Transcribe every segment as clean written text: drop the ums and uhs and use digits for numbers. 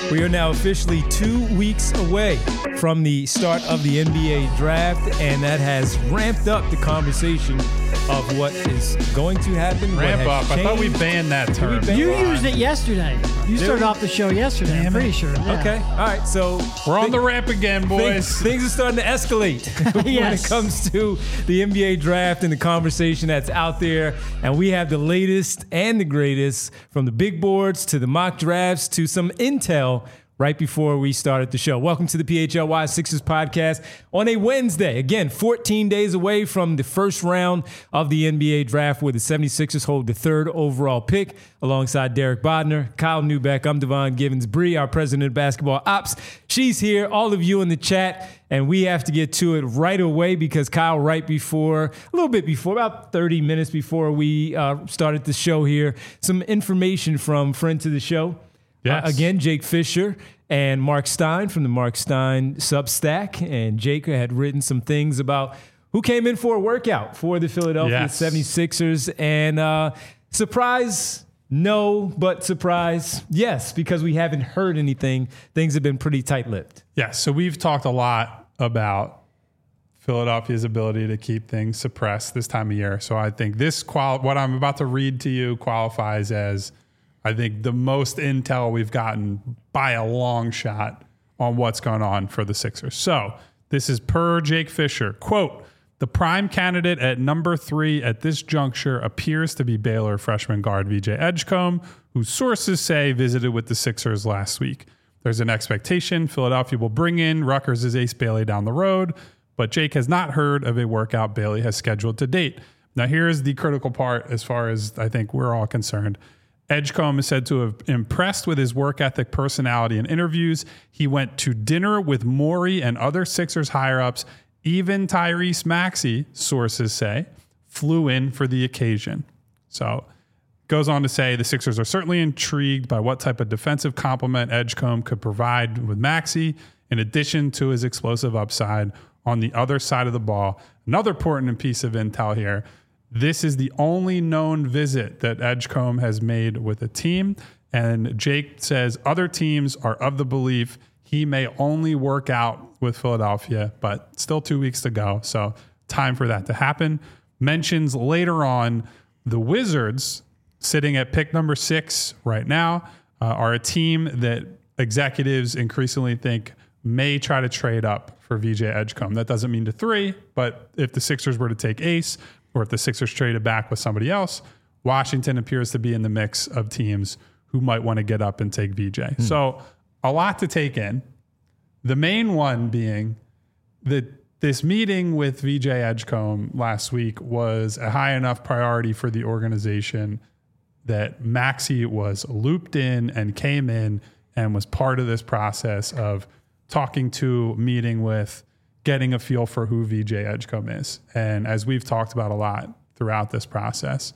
We are now officially 2 weeks away from the start of the NBA draft, and that has ramped up the conversation of what is going to happen. Ramp up. Changed. I thought we banned that term. You used it yesterday. You started off the show yesterday. I'm pretty sure. Yeah. Okay. All right. So we're on the ramp again, boys. Things are starting to escalate when it comes to the NBA draft and the conversation that's out there. And we have the latest and the greatest, from the big boards to the mock drafts to some intel right before we started the show. Welcome to the PHLY Sixers podcast on a Wednesday. Again, 14 days away from the first round of the NBA draft, where the 76ers hold the third overall pick alongside Derek Bodner, Kyle Neubeck. I'm Devon Givens-Bree, our president of basketball ops. She's here, all of you in the chat, and we have to get to it right away because Kyle, right before, a little bit before, about 30 minutes before we started the show here, some information from friend to the show. Yes. Again, Jake Fisher and Mark Stein from the Mark Stein Substack. And Jake had written some things about who came in for a workout for the Philadelphia 76ers. And surprise, no, but surprise, yes, because we haven't heard anything. Things have been pretty tight-lipped. Yes, so we've talked a lot about Philadelphia's ability to keep things suppressed this time of year. So I think what I'm about to read to you qualifies as, I think, the most intel we've gotten by a long shot on what's going on for the Sixers. So this is per Jake Fisher. Quote, "The prime candidate at number 3 at this juncture appears to be Baylor freshman guard VJ Edgecombe, who sources say visited with the Sixers last week. There's an expectation Philadelphia will bring in Rutgers' Ace Bailey down the road, but Jake has not heard of a workout Bailey has scheduled to date." Now here's the critical part as far as I think we're all concerned. Edgecombe is said to have impressed with his work ethic, personality, and interviews. He went to dinner with Morey and other Sixers higher-ups. Even Tyrese Maxey, sources say, flew in for the occasion. So goes on to say the Sixers are certainly intrigued by what type of defensive complement Edgecombe could provide with Maxey, in addition to his explosive upside on the other side of the ball. Another important piece of intel here: this is the only known visit that Edgecombe has made with a team. And Jake says other teams are of the belief he may only work out with Philadelphia, but still 2 weeks to go. So time for that to happen. Mentions later on the Wizards, sitting at pick number 6 right now, are a team that executives increasingly think may try to trade up for VJ Edgecombe. That doesn't mean to 3, but if the Sixers were to take Ace, or if the Sixers traded back with somebody else, Washington appears to be in the mix of teams who might want to get up and take VJ. So a lot to take in. The main one being that this meeting with VJ Edgecombe last week was a high enough priority for the organization that Maxey was looped in and came in and was part of this process of talking to, meeting with, getting a feel for who VJ Edgecombe is. And as we've talked about a lot throughout this process,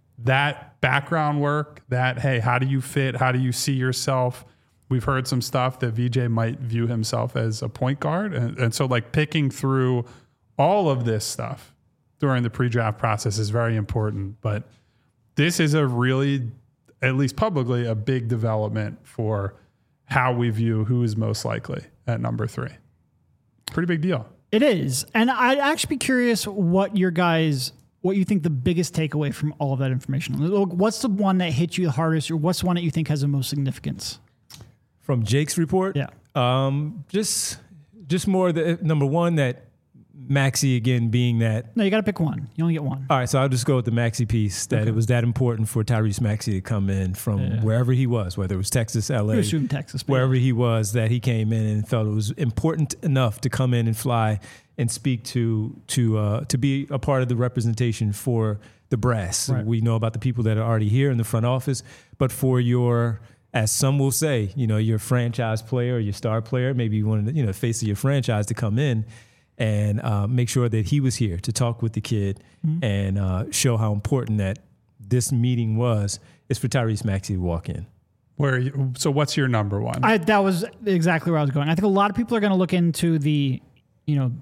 that background work, that, hey, how do you fit? How do you see yourself? We've heard some stuff that VJ might view himself as a point guard. And so like picking through all of this stuff during the pre-draft process is very important. But this is a really, at least publicly, a big development for how we view who is most likely at number 3. Pretty big deal. It is. And I'd actually be curious what you think the biggest takeaway from all of that information. What's the one that hit you the hardest, or what's the one that you think has the most significance? From Jake's report? Yeah. Just more the number one, that Maxey again being that. No, you got to pick one. You only get one. All right, so I'll just go with the Maxey piece, that it was that important for Tyrese Maxey to come in from wherever he was, whether it was Texas, LA, You assume Texas, wherever he was, that he came in and felt it was important enough to come in and fly and speak to be a part of the representation for the brass. Right. We know about the people that are already here in the front office, but for your, as some will say, your franchise player or your star player, maybe you wanted, the face of your franchise to come in and make sure that he was here to talk with the kid and show how important that this meeting was, is for Tyrese Maxey to walk in. So what's your number one? That was exactly where I was going. I think a lot of people are going to look into the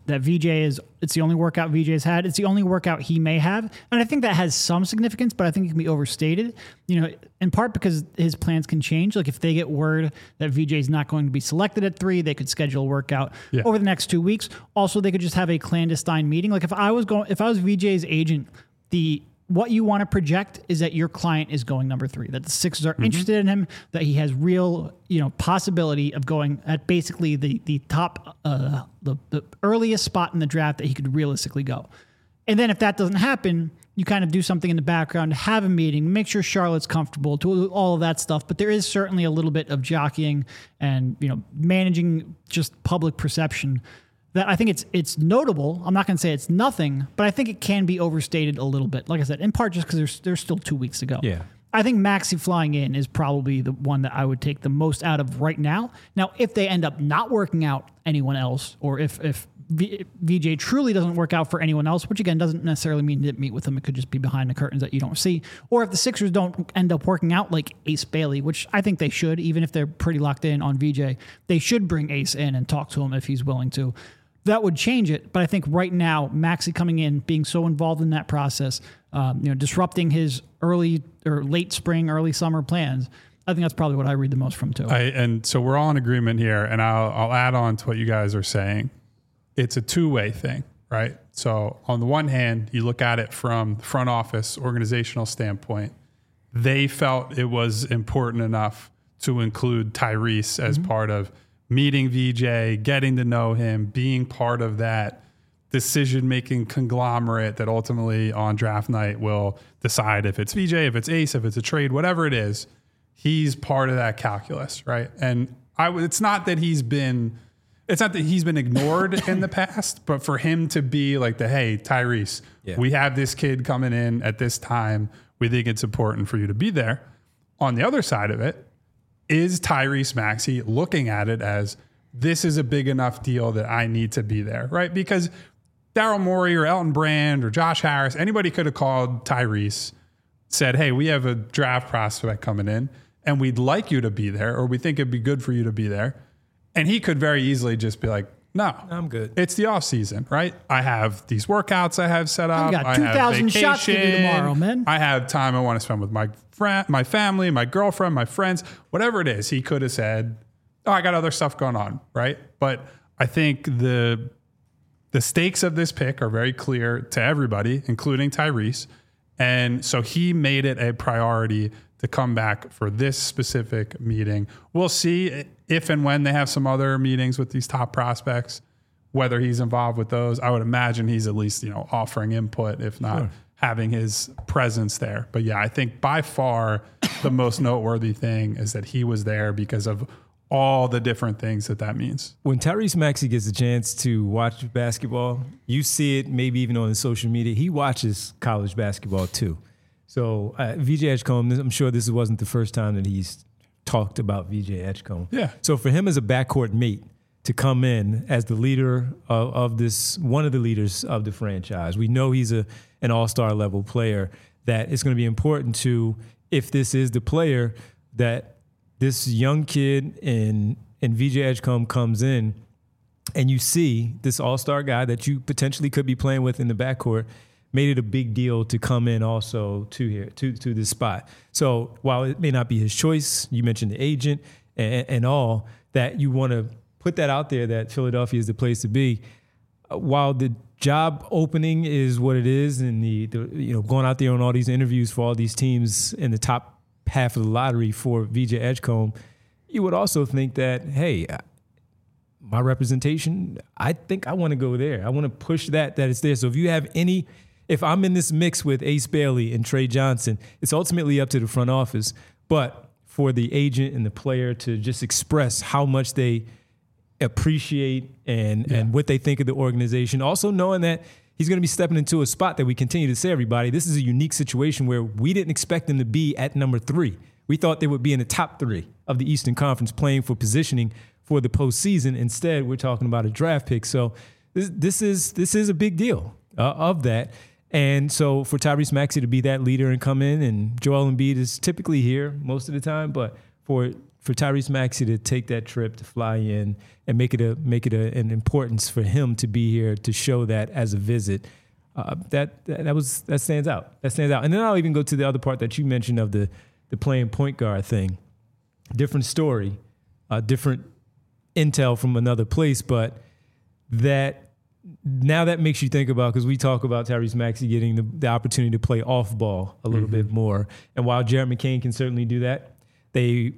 that it's the only workout VJ's had. It's the only workout he may have. And I think that has some significance, but I think it can be overstated, in part because his plans can change. Like if they get word that VJ's not going to be selected at 3, they could schedule a workout over the next 2 weeks. Also, they could just have a clandestine meeting. Like if I was VJ's agent, what you want to project is that your client is going number 3, that the Sixers are interested in him, that he has real, possibility of going at basically the top, the earliest spot in the draft that he could realistically go. And then if that doesn't happen, you kind of do something in the background, have a meeting, make sure Charlotte's comfortable, to all of that stuff. But there is certainly a little bit of jockeying and, managing just public perception that I think it's notable. I'm not going to say it's nothing, but I think it can be overstated a little bit. Like I said, in part just because there's still 2 weeks to go. Yeah. I think Maxey flying in is probably the one that I would take the most out of right now. Now, if they end up not working out anyone else, or if VJ truly doesn't work out for anyone else, which again doesn't necessarily mean didn't meet with them, it could just be behind the curtains that you don't see, or if the Sixers don't end up working out like Ace Bailey, which I think they should, even if they're pretty locked in on VJ, they should bring Ace in and talk to him if he's willing to. That would change it, but I think right now, Maxey coming in, being so involved in that process, disrupting his early or late spring, early summer plans, I think that's probably what I read the most from too. And so we're all in agreement here, and I'll add on to what you guys are saying. It's a two-way thing, right? So on the one hand, you look at it from the front office organizational standpoint. They felt it was important enough to include Tyrese as part of meeting VJ, getting to know him, being part of that decision-making conglomerate that ultimately on draft night will decide if it's VJ, if it's Ace, if it's a trade, whatever it is. He's part of that calculus, right? And it's not that he's been ignored in the past, but for him to be like hey, Tyrese, we have this kid coming in at this time. We think it's important for you to be there. On the other side of it, is Tyrese Maxey looking at it as this is a big enough deal that I need to be there, right? Because Daryl Morey or Elton Brand or Josh Harris, anybody could have called Tyrese, said, hey, we have a draft prospect coming in and we'd like you to be there, or we think it'd be good for you to be there. And he could very easily just be like, no, I'm good. It's the off season, right? I have these workouts I have set up. I got 2,000 shots to do tomorrow, man. I have time I want to spend with my family, my girlfriend, my friends, whatever it is. He could have said, oh, I got other stuff going on, right? But I think the stakes of this pick are very clear to everybody, including Tyrese. And so he made it a priority to come back for this specific meeting. We'll see if and when they have some other meetings with these top prospects, whether he's involved with those. I would imagine he's at least, offering input, if not having his presence there. But yeah, I think by far the most noteworthy thing is that he was there because of all the different things that means. When Tyrese Maxey gets a chance to watch basketball, you see it maybe even on his social media. He watches college basketball too. So VJ Edgecombe, I'm sure this wasn't the first time that he's talked about VJ Edgecombe. Yeah. So for him as a backcourt mate to come in as the leader of this, one of the leaders of the franchise, we know he's an all-star level player that it's going to be important to, if this is the player, that this young kid and VJ Edgecombe comes in and you see this all-star guy that you potentially could be playing with in the backcourt made it a big deal to come in also to this spot. So while it may not be his choice, you mentioned the agent and all, that you want to put that out there that Philadelphia is the place to be. While the job opening is what it is, and the going out there on all these interviews for all these teams in the top half of the lottery for VJ Edgecombe, you would also think that, hey, my representation, I think I want to go there. I want to push that it's there. So if I'm in this mix with Ace Bailey and Trey Johnson, it's ultimately up to the front office. But for the agent and the player to just express how much they appreciate and what they think of the organization, also knowing that he's going to be stepping into a spot that we continue to say, everybody, this is a unique situation where we didn't expect them to be at number 3. We thought they would be in the top 3 of the Eastern Conference playing for positioning for the postseason. Instead, we're talking about a draft pick. So this is a big deal of that. And so for Tyrese Maxey to be that leader and come in, and Joel Embiid is typically here most of the time, but for for Tyrese Maxey to take that trip to fly in and make it an importance for him to be here to show that as a visit. That stands out. That stands out. And then I'll even go to the other part that you mentioned of the playing point guard thing. Different story, different intel from another place, but that makes you think about, because we talk about Tyrese Maxey getting the opportunity to play off ball a little bit more. And while Jared McCain can certainly do that, the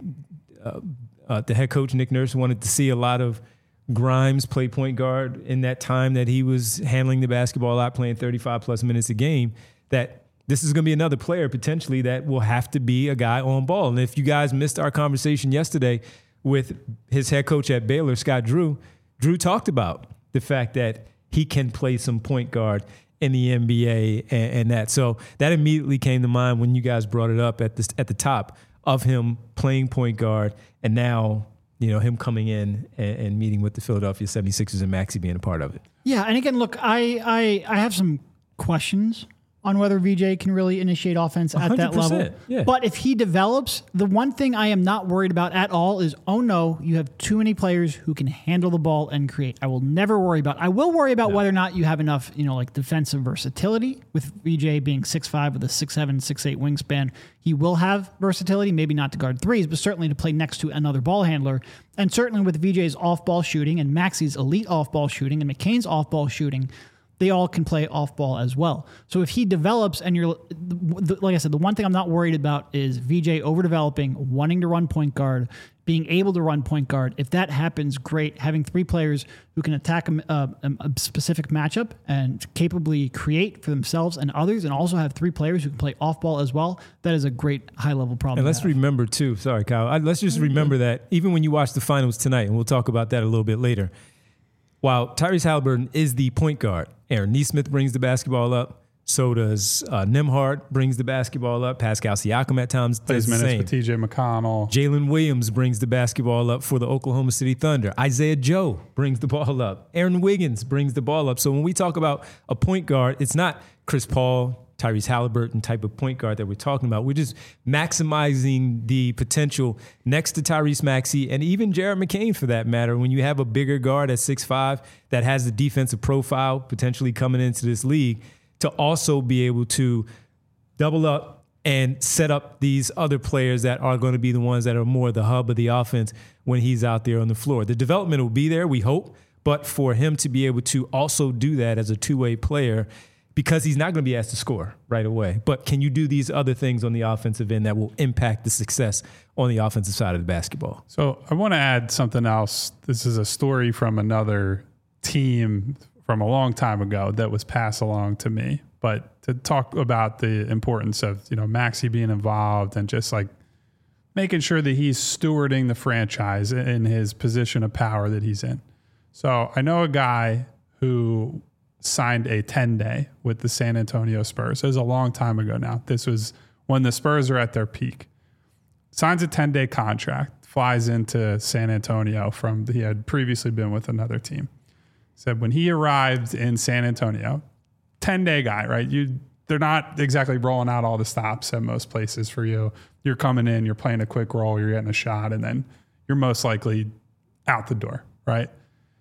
head coach, Nick Nurse, wanted to see a lot of Grimes play point guard in that time that he was handling the basketball a lot, playing 35 plus minutes a game, that this is going to be another player potentially that will have to be a guy on ball. And if you guys missed our conversation yesterday with his head coach at Baylor, Scott Drew talked about the fact that he can play some point guard in the NBA and that. So that immediately came to mind when you guys brought it up at the top of him playing point guard, and now, him coming in and meeting with the Philadelphia 76ers and Maxey being a part of it. Yeah, and again, look, I have some questions on whether VJ can really initiate offense at that level. Yeah. But if he develops, the one thing I am not worried about at all is, oh no, you have too many players who can handle the ball and create. I will never worry about. I will worry about whether or not you have enough, defensive versatility. With VJ being 6'5" with a 6'7", 6'8" wingspan, he will have versatility, maybe not to guard threes, but certainly to play next to another ball handler. And certainly with VJ's off-ball shooting and Maxey's elite off-ball shooting and McCain's off-ball shooting, they all can play off ball as well. So if he develops, and like I said, the one thing I'm not worried about is VJ overdeveloping, wanting to run point guard, being able to run point guard. If that happens, great. Having three players who can attack a specific matchup and capably create for themselves and others, and also have three players who can play off ball as well, that is a great high level problem. And let's remember too, sorry, Kyle, let's just remember that even when you watch the finals tonight, and we'll talk about that a little bit later, while Tyrese Haliburton is the point guard, Aaron Nesmith brings the basketball up. So does Nembhard brings the basketball up. Pascal Siakam at times does the same. With T.J. McConnell. Jalen Williams brings the basketball up for the Oklahoma City Thunder. Isaiah Joe brings the ball up. Aaron Wiggins brings the ball up. So when we talk about a point guard, it's not Chris Paul, Tyrese Haliburton type of point guard that we're talking about. We're just maximizing the potential next to Tyrese Maxey and even Jared McCain for that matter. When you have a bigger guard at 6'5" that has the defensive profile potentially coming into this league, to also be able to double up and set up these other players that are going to be the ones that are more the hub of the offense when he's out there on the floor. The development will be there, we hope, but for him to be able to also do that as a two-way player, because he's not going to be asked to score right away. But can you do these other things on the offensive end that will impact the success on the offensive side of the basketball? So I want to add something else. This is a story from another team from a long time ago that was passed along to me. But to talk about the importance of, Maxey being involved and just like making sure that he's stewarding the franchise in his position of power that he's in. So I know a guy who signed a 10-day with the San Antonio Spurs. It was a long time ago now. This was when the Spurs are at their peak. Signs a 10-day contract, flies into San Antonio he had previously been with another team. Said when he arrived in San Antonio, 10-day guy, right? They're not exactly rolling out all the stops at most places for you. You're coming in, you're playing a quick roll, you're getting a shot, and then you're most likely out the door, right?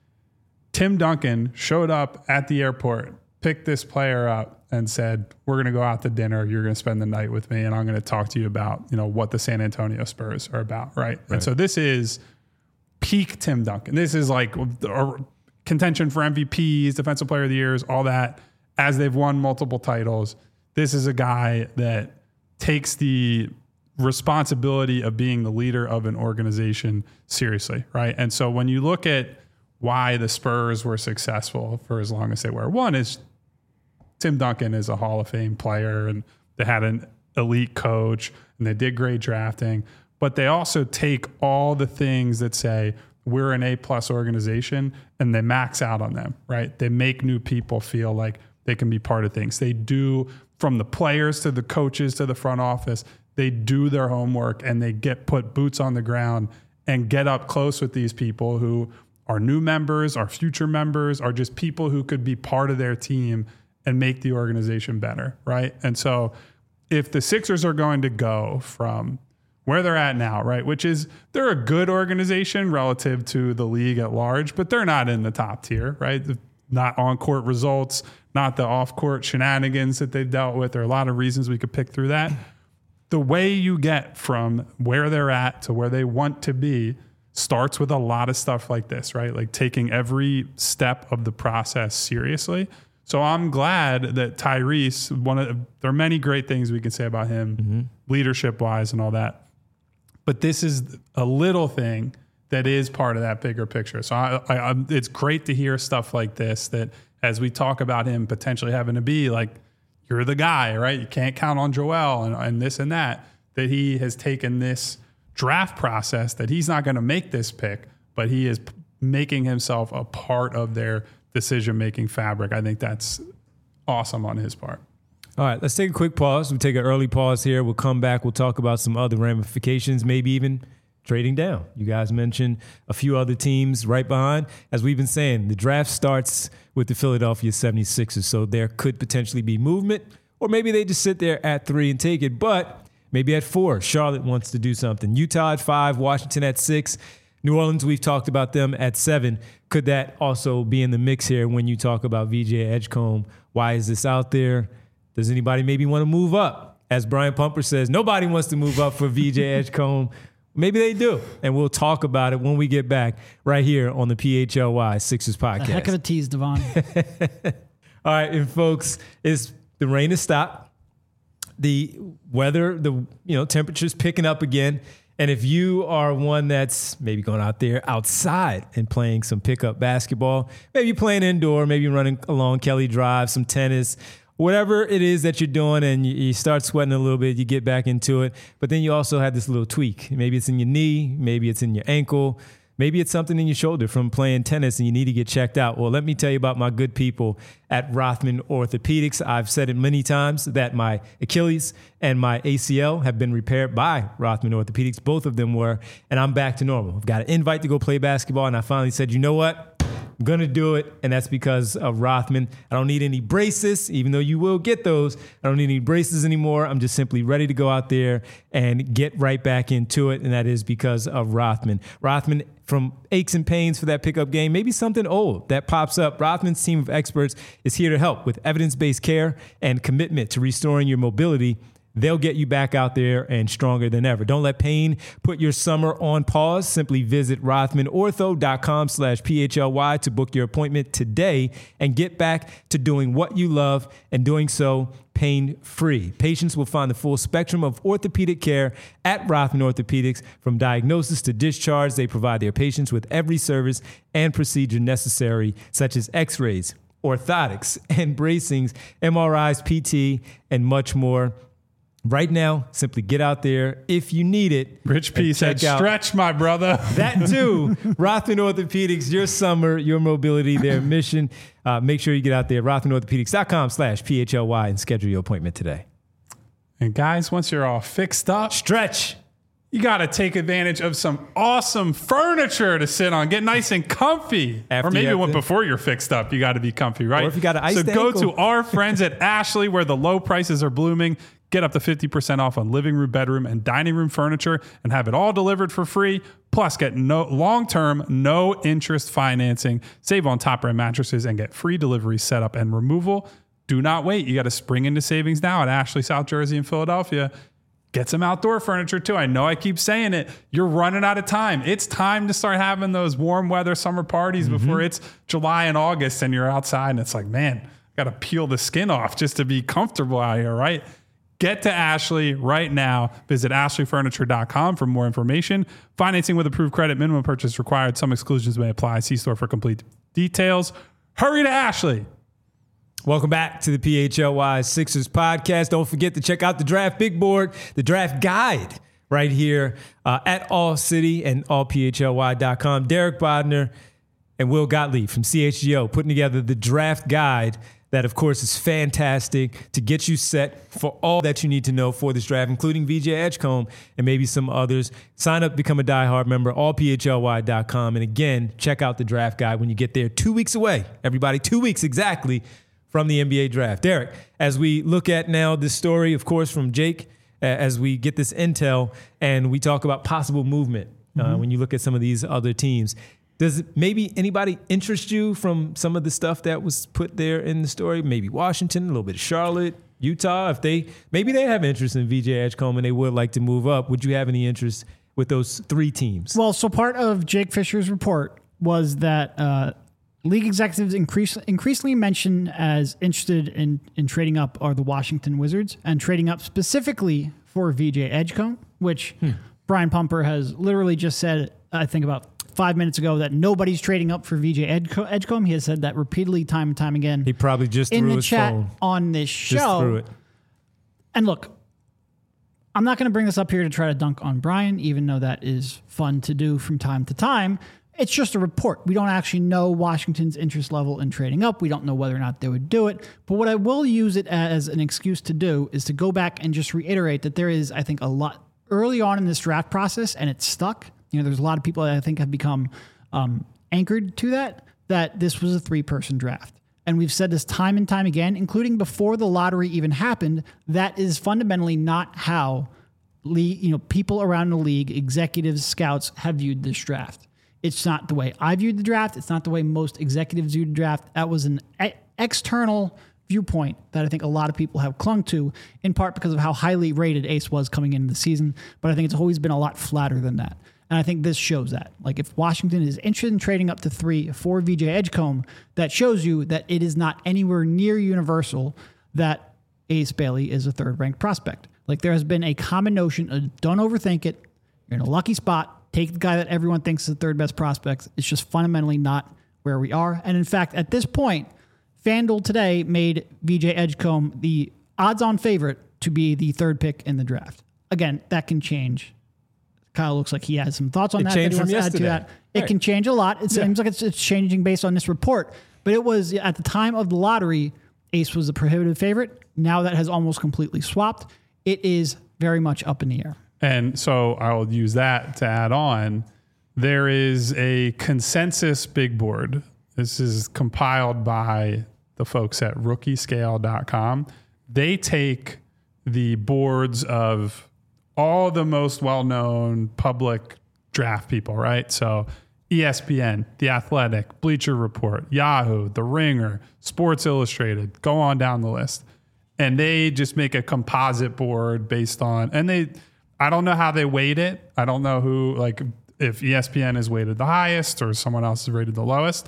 Tim Duncan showed up at the airport, picked this player up and said, we're going to go out to dinner. You're going to spend the night with me. And I'm going to talk to you about, what the San Antonio Spurs are about. Right. And so this is peak Tim Duncan. This is like contention for MVPs, defensive player of the years, all that, as they've won multiple titles. This is a guy that takes the responsibility of being the leader of an organization seriously. Right. And so when you look at why the Spurs were successful for as long as they were, one is Tim Duncan is a Hall of Fame player and they had an elite coach and they did great drafting, but they also take all the things that say we're an A+ organization and they max out on them, right? They make new people feel like they can be part of things. They do, from the players to the coaches to the front office, they do their homework and they put boots on the ground and get up close with these people who are new members, are future members, are just people who could be part of their team and make the organization better, right? And so if the Sixers are going to go from where they're at now, right? Which is they're a good organization relative to the league at large, but they're not in the top tier, right? Not on-court results, not the off-court shenanigans that they've dealt with. There are a lot of reasons we could pick through that. The way you get from where they're at to where they want to be starts with a lot of stuff like this, right? Like taking every step of the process seriously. So I'm glad that Tyrese, there are many great things we can say about him, leadership-wise and all that. But this is a little thing that is part of that bigger picture. So it's great to hear stuff like this, that as we talk about him potentially having to be like, you're the guy, right? You can't count on Joel and this and that he has taken this draft process, that he's not going to make this pick, but he is making himself a part of their decision-making fabric. I think that's awesome on his part. All right, let's take a quick pause. We'll take an early pause here. We'll come back. We'll talk about some other ramifications, maybe even trading down. You guys mentioned a few other teams right behind. As we've been saying, the draft starts with the Philadelphia 76ers, so there could potentially be movement, or maybe they just sit there at 3 and take it. But maybe at 4, Charlotte wants to do something. Utah at 5, Washington at 6. New Orleans, we've talked about them at 7. Could that also be in the mix here when you talk about VJ Edgecombe? Why is this out there? Does anybody maybe want to move up? As Brian Pumper says, nobody wants to move up for VJ Edgecombe. Maybe they do, and we'll talk about it when we get back right here on the PHLY Sixers podcast. A heck of a tease, Devon. All right, and folks, the rain has stopped. The weather, temperature's picking up again. And if you are one that's maybe going out there outside and playing some pickup basketball, maybe playing indoor, maybe running along Kelly Drive, some tennis, whatever it is that you're doing, and you start sweating a little bit, you get back into it. But then you also have this little tweak. Maybe it's in your knee, maybe it's in your ankle, maybe it's something in your shoulder from playing tennis and you need to get checked out. Well, let me tell you about my good people at Rothman Orthopedics. I've said it many times that my Achilles and my ACL have been repaired by Rothman Orthopedics. Both of them were, and I'm back to normal. I've got an invite to go play basketball, and I finally said, you know what? I'm going to do it, and that's because of Rothman. I don't need any braces, even though you will get those. I don't need any braces anymore. I'm just simply ready to go out there and get right back into it, and that is because of Rothman. Rothman, from aches and pains for that pickup game, maybe something old that pops up. Rothman's team of experts is here to help with evidence-based care and commitment to restoring your mobility. They'll get you back out there and stronger than ever. Don't let pain put your summer on pause. Simply visit rothmanortho.com/PHLY to book your appointment today and get back to doing what you love, and doing so pain-free. Patients will find the full spectrum of orthopedic care at Rothman Orthopedics. From diagnosis to discharge, they provide their patients with every service and procedure necessary, such as x-rays, orthotics, and bracings, MRIs, PT, and much more. Right now, simply get out there if you need it. Rich P said, stretch, my brother. That too. Rothman Orthopedics, your summer, your mobility, their mission. Make sure you get out there, rothmanorthopedics.com/PHLY, and schedule your appointment today. And guys, once you're all fixed up, stretch. You got to take advantage of some awesome furniture to sit on. Get nice and comfy. Or maybe before you're fixed up, you got to be comfy, right? Or if you got an iced ankle. So go to our friends at Ashley, where the low prices are blooming. Get up to 50% off on living room, bedroom, and dining room furniture, and have it all delivered for free. Plus, get long-term, no-interest financing. Save on top-brand mattresses and get free delivery, setup, and removal. Do not wait. You got to spring into savings now at Ashley, South Jersey, and Philadelphia. Get some outdoor furniture, too. I know I keep saying it. You're running out of time. It's time to start having those warm weather summer parties before it's July and August, and you're outside, and it's like, man, got to peel the skin off just to be comfortable out here, right? Get to Ashley right now. Visit ashleyfurniture.com for more information. Financing with approved credit. Minimum purchase required. Some exclusions may apply. See store for complete details. Hurry to Ashley. Welcome back to the PHLY Sixers podcast. Don't forget to check out the Draft Big Board, the Draft Guide, right here at All City and allphly.com. Derek Bodner and Will Gottlieb from CHGO putting together the Draft Guide. That, of course, is fantastic to get you set for all that you need to know for this draft, including VJ Edgecombe and maybe some others. Sign up, become a diehard member, allphly.com. And again, check out the draft guide when you get there. 2 weeks away, everybody, 2 weeks exactly from the NBA draft. Derek, as we look at now this story, of course, from Jake as we get this intel and we talk about possible movement when you look at some of these other teams. Does maybe anybody interest you from some of the stuff that was put there in the story? Maybe Washington, a little bit of Charlotte, Utah. If they have interest in VJ Edgecombe and they would like to move up, would you have any interest with those 3 teams? Well, so part of Jake Fisher's report was that league executives increasingly mentioned as interested in trading up are the Washington Wizards, and trading up specifically for VJ Edgecombe, which Brian Pumper has literally just said, I think about 5 minutes ago, that nobody's trading up for VJ Edgecombe. He has said that repeatedly, time and time again. He probably just in threw the his chat phone. On this show. Just threw it. And look, I'm not going to bring this up here to try to dunk on Brian, even though that is fun to do from time to time. It's just a report. We don't actually know Washington's interest level in trading up. We don't know whether or not they would do it. But what I will use it as an excuse to do is to go back and just reiterate that there is, I think, a lot early on in this draft process, and it's stuck. There's a lot of people that I think have become anchored to that this was a 3-person draft. And we've said this time and time again, including before the lottery even happened, that is fundamentally not how people around the league, executives, scouts, have viewed this draft. It's not the way I viewed the draft. It's not the way most executives viewed the draft. That was an external viewpoint that I think a lot of people have clung to, in part because of how highly rated Ace was coming into the season. But I think it's always been a lot flatter than that. And I think this shows that. Like, if Washington is interested in trading up to 3 for VJ Edgecombe, that shows you that it is not anywhere near universal that Ace Bailey is a 3rd-ranked prospect. Like, there has been a common notion of don't overthink it. You're in a lucky spot. Take the guy that everyone thinks is the 3rd-best prospect. It's just fundamentally not where we are. And in fact, at this point, FanDuel today made VJ Edgecombe the odds-on favorite to be the 3rd pick in the draft. Again, that can change. Kyle looks like he has some thoughts on that. Changed that he wants from to add yesterday. to that. It can change a lot. It seems like it's changing based on this report. But it was, at the time of the lottery, Ace was the prohibitive favorite. Now that has almost completely swapped. It is very much up in the air. And so I'll use that to add on. There is a consensus big board. This is compiled by the folks at rookiescale.com. They take the boards of all the most well-known public draft people, right? So ESPN, The Athletic, Bleacher Report, Yahoo, The Ringer, Sports Illustrated, go on down the list. And they just make a composite board based on, I don't know how they weight it. I don't know who, like, if ESPN is weighted the highest or someone else is rated the lowest.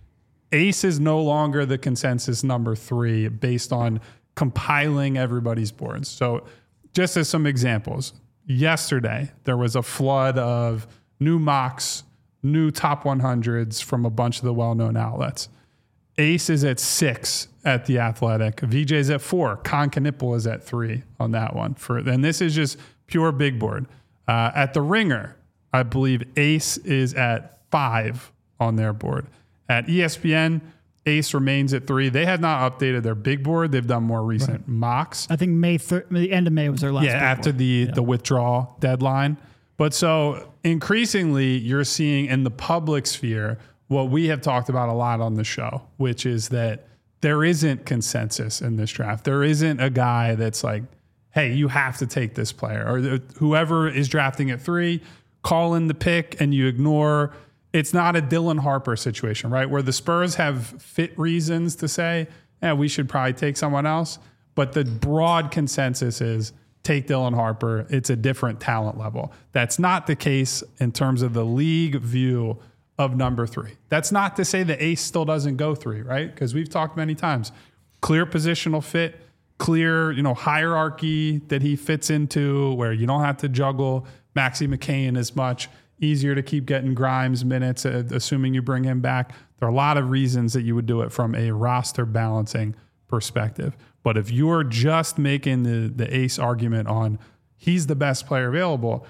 Ace is no longer the consensus number 3 based on compiling everybody's boards. So just as some examples, yesterday there was a flood of new mocks, new top 100s from a bunch of the well-known outlets. Ace is at 6 at The Athletic. VJ's at 4. Con Knipple is at 3 on that one. And this is just pure big board. At The Ringer, I believe Ace is at 5 on their board. At ESPN, Ace remains at 3. They had not updated their big board. They've done more recent mocks. I think the end of May was their last. Yeah, after the withdrawal deadline. But so increasingly, you're seeing in the public sphere what we have talked about a lot on the show, which is that there isn't consensus in this draft. There isn't a guy that's like, hey, you have to take this player. Or whoever is drafting at 3, call in the pick and you ignore. It's not a Dylan Harper situation, right? Where the Spurs have fit reasons to say, we should probably take someone else. But the broad consensus is take Dylan Harper. It's a different talent level. That's not the case in terms of the league view of number 3. That's not to say the Ace still doesn't go 3, right? Because we've talked many times. Clear positional fit, clear, hierarchy that he fits into where you don't have to juggle Maxey McCain as much. Easier to keep getting Grimes minutes, assuming you bring him back. There are a lot of reasons that you would do it from a roster balancing perspective. But if you're just making the Ace argument on he's the best player available,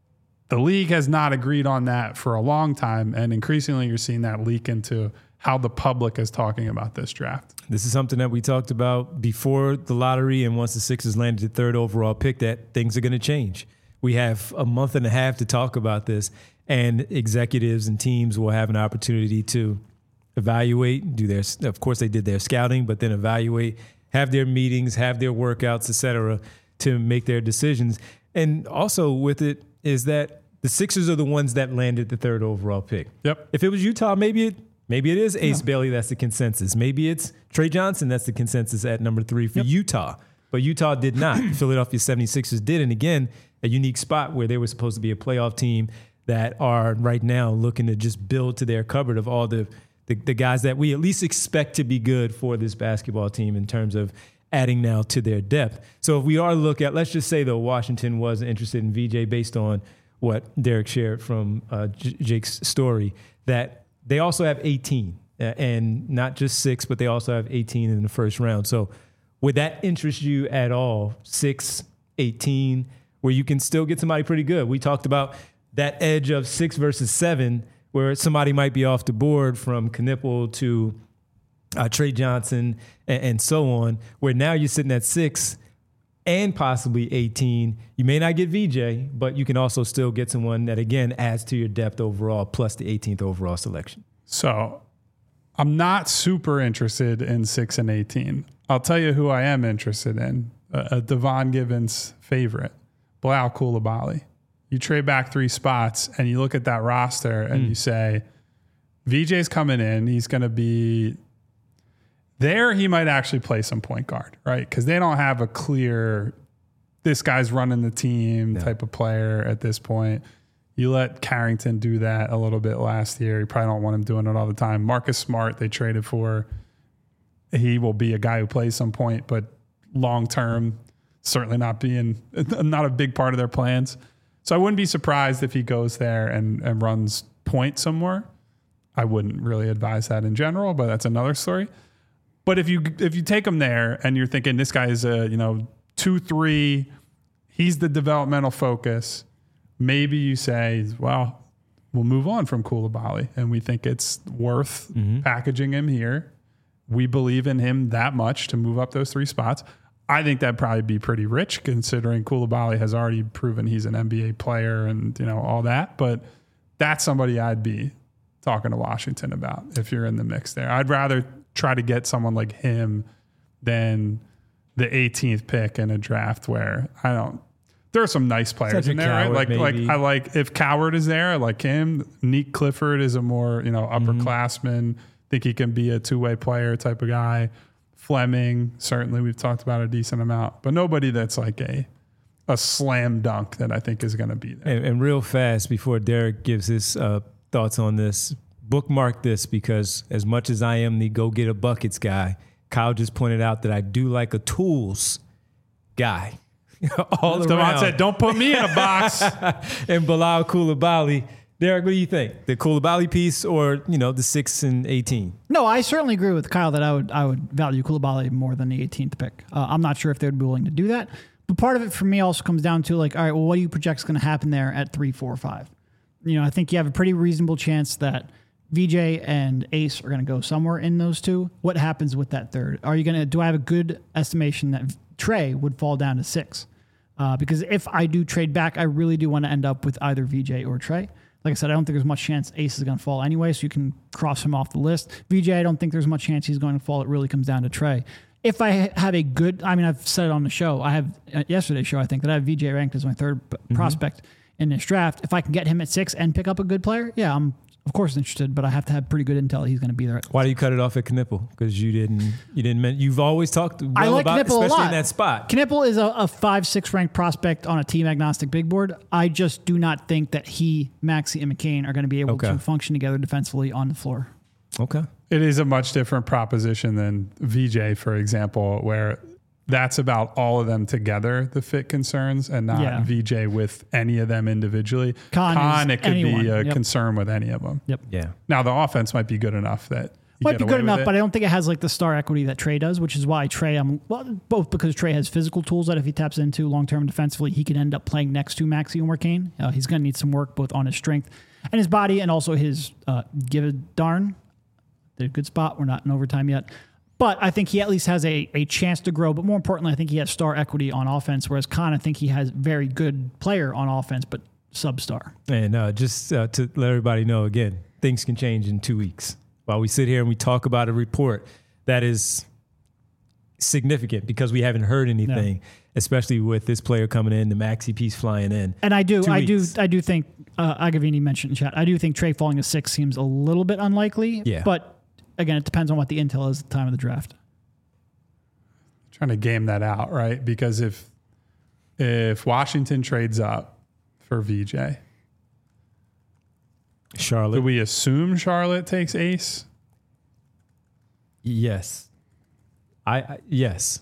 the league has not agreed on that for a long time. And increasingly, you're seeing that leak into how the public is talking about this draft. This is something that we talked about before the lottery, and once the Sixers landed the 3rd overall pick, that things are going to change. We have a month and a half to talk about this, and executives and teams will have an opportunity to evaluate, of course they did their scouting, but then evaluate, have their meetings, have their workouts, et cetera, to make their decisions. And also with it is that the Sixers are the ones that landed the 3rd overall pick. Yep. If it was Utah, maybe it is Ace Bailey that's the consensus. Maybe it's Trey Johnson that's the consensus at number 3 for Utah. But Utah did not. Philadelphia 76ers did. And again, a unique spot where they were supposed to be a playoff team that are right now looking to just build to their cupboard of all the guys that we at least expect to be good for this basketball team in terms of adding now to their depth. So if we are look at, let's just say though, Washington was interested in VJ based on what Derek shared from Jake's story, that they also have 18 and not just 6, but they also have 18 in the first round. So would that interest you at all? 6, 18, where you can still get somebody pretty good. We talked about that edge of 6 versus 7, where somebody might be off the board from Knipple to Trey Johnson and so on, where now you're sitting at 6 and possibly 18. You may not get VJ, but you can also still get someone that, again, adds to your depth overall, plus the 18th overall selection. So I'm not super interested in 6 and 18. I'll tell you who I am interested in, a Devon Gibbons favorite, Bilal Coulibaly. You trade back 3 spots and you look at that roster and you say, VJ's coming in. He's going to be there. He might actually play some point guard, right? Because they don't have a clear, this guy's running the team type of player at this point. You let Carrington do that a little bit last year. You probably don't want him doing it all the time. Marcus Smart, they traded for. He will be a guy who plays some point, but long term, certainly not a big part of their plans. So I wouldn't be surprised if he goes there and runs point somewhere. I wouldn't really advise that in general, but that's another story. But if you take him there and you're thinking this guy is a 2-3, he's the developmental focus. Maybe you say, well, we'll move on from Coulibaly, and we think it's worth packaging him here. We believe in him that much to move up those 3 spots. I think that'd probably be pretty rich, considering Coulibaly has already proven he's an NBA player and all that. But that's somebody I'd be talking to Washington about if you're in the mix there. I'd rather try to get someone like him than the 18th pick in a draft where there are some nice players in there, right? I like if Coward is there, I like him. Nick Clifford is a more upperclassman. Think he can be a 2-way player type of guy. Fleming, certainly we've talked about a decent amount, but nobody that's like a slam dunk that I think is going to be there. And real fast, before Derek gives his thoughts on this, bookmark this, because as much as I am the go get a buckets guy, Kyle just pointed out that I do like a tools guy. All Devon around. said, don't put me in a box. And Bilal Coulibaly. Derek, what do you think? The Coulibaly piece or, the 6 and 18? No, I certainly agree with Kyle that I would value Coulibaly more than the 18th pick. I'm not sure if they would be willing to do that. But part of it for me also comes down to all right, well, what do you project is going to happen there at 3, 4, 5? I think you have a pretty reasonable chance that VJ and Ace are going to go somewhere in those 2. What happens with that 3rd? Do I have a good estimation that Trey would fall down to 6? Because if I do trade back, I really do want to end up with either VJ or Trey. Like I said, I don't think there's much chance Ace is going to fall anyway, so you can cross him off the list. VJ, I don't think there's much chance he's going to fall. It really comes down to Trey. If I have a good, I've said it on the show. I have yesterday's show, I think, that I have VJ ranked as my 3rd prospect in this draft. If I can get him at 6 and pick up a good player, yeah, I'm of course interested, but I have to have pretty good intel he's going to be there. Why do you cut it off at Knipple? Because you've always talked well I like about, Knipple especially a lot. in that spot. Knipple is a 5-6 ranked prospect on a team agnostic big board. I just do not think that Maxey, and McCain are going to be able to function together defensively on the floor. Okay. It is a much different proposition than VJ, for example, where that's about all of them together, the fit concerns, and not VJ with any of them individually. Con it could be a concern with any of them. Yep. Yeah. Now, the offense might be good enough that might be good enough, but I don't think it has like the star equity that Trey does, which is why Trey, both because Trey has physical tools that if he taps into long-term defensively, he can end up playing next to Maxey and McCain. He's going to need some work both on his strength and his body and also his give a darn. They're a good spot. We're not in overtime yet. But I think he at least has a chance to grow. But more importantly, I think he has star equity on offense, whereas Khan, I think he has very good player on offense, but sub-star. And just to let everybody know, again, things can change in 2 weeks. While we sit here and we talk about a report that is significant because we haven't heard anything, especially with this player coming in, the maxi piece flying in. And I do think Agavini mentioned in chat. I do think Trey falling to 6 seems a little bit unlikely. Yeah. But again, it depends on what the intel is at the time of the draft. Trying to game that out, right? Because if Washington trades up for VJ, Charlotte, do we assume Charlotte takes Ace? Yes. Yes.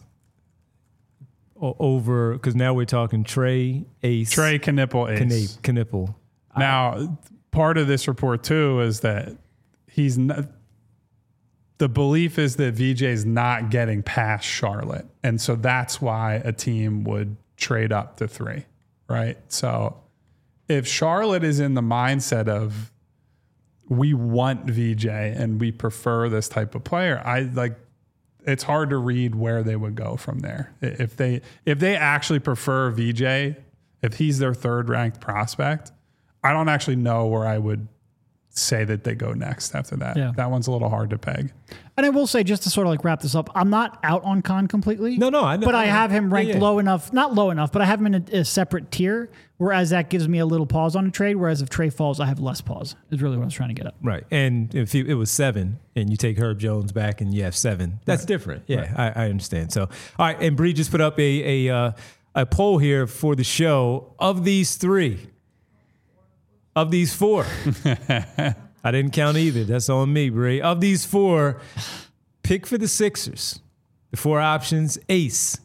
Over, because now we're talking Trey, Ace. Trey, Knipple, Ace. Knipple. Now, part of this report too is that he's not. The belief is that VJ's not getting past Charlotte. And so that's why a team would trade up to 3, right? So if Charlotte is in the mindset of we want VJ and we prefer this type of player, it's hard to read where they would go from there. If they actually prefer VJ, if he's their 3rd ranked prospect, I don't actually know where I would say that they go next after that. Yeah. That one's a little hard to peg. And I will say, just to sort of wrap this up, I'm not out on Khan completely. No, I know. But I have him ranked low enough, not low enough, but I have him in a separate tier, whereas that gives me a little pause on a trade, whereas if Trey falls, I have less pause, is really what I was trying to get at. Right. And if it was 7 and you take Herb Jones back and you have 7, that's different. Yeah, right. I understand. So, all right. And Bree just put up a poll here for the show. Of these 4, I didn't count either. That's on me, Bree. Of these 4, pick for the Sixers. The 4 options: Ace,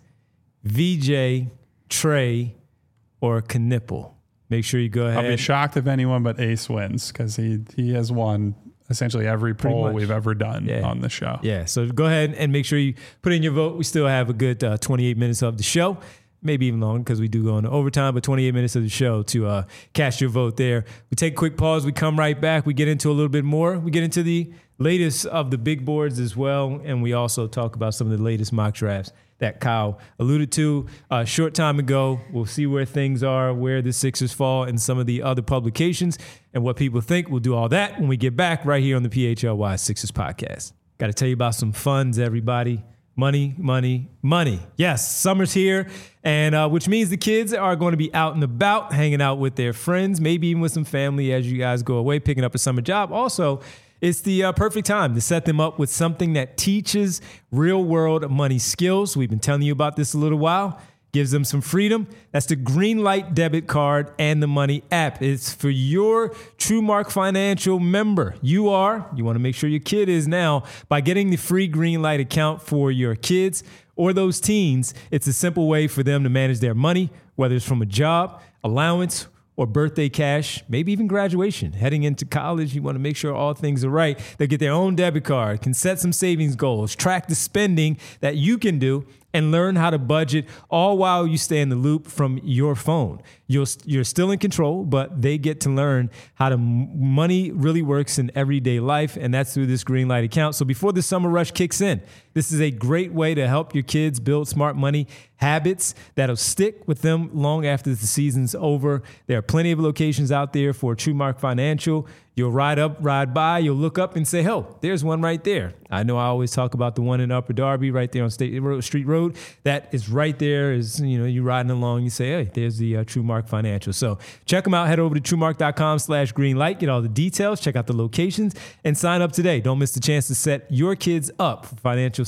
VJ, Trey, or Knipple. Make sure you go ahead. I'll be shocked if anyone but Ace wins because he has won essentially every poll we've ever done on the show. Yeah, so go ahead and make sure you put in your vote. We still have a good 28 minutes of the show. Maybe even longer because we do go into overtime, but 28 minutes of the show to cast your vote there. We take a quick pause. We come right back. We get into a little bit more. We get into the latest of the big boards as well, and we also talk about some of the latest mock drafts that Kyle alluded to a short time ago. We'll see where things are, where the Sixers fall in some of the other publications, and what people think. We'll do all that when we get back right here on the PHLY Sixers podcast. Got to tell you about some funds, everybody. Money, money, money. Yes, summer's here, and which means the kids are going to be out and about, hanging out with their friends, maybe even with some family as you guys go away, picking up a summer job. Also, it's the perfect time to set them up with something that teaches real-world money skills. We've been telling you about this a little while. Gives them some freedom. That's the Greenlight debit card and the Money app. It's for your TrueMark Financial member. You want to make sure your kid is now by getting the free Greenlight account for your kids or those teens. It's a simple way for them to manage their money, whether it's from a job, allowance, or birthday cash, maybe even graduation. Heading into college, you want to make sure all things are right. They'll get their own debit card, can set some savings goals, track the spending that you can do, and learn how to budget, all while you stay in the loop from your phone. You're still in control, but they get to learn how money really works in everyday life, and that's through this Greenlight account. So before the summer rush kicks in, this is a great way to help your kids build smart money habits that'll stick with them long after the season's over. There are plenty of locations out there for TrueMark Financial. You'll ride up, ride by, you'll look up and say, oh, there's one right there. I know I always talk about the one in Upper Darby right there on Street Road. That is right there. Is, you riding along, you say, hey, there's the TrueMark Financial. So check them out. Head over to TrueMark.com/greenlight. Get all the details, check out the locations, and sign up today. Don't miss the chance to set your kids up for financial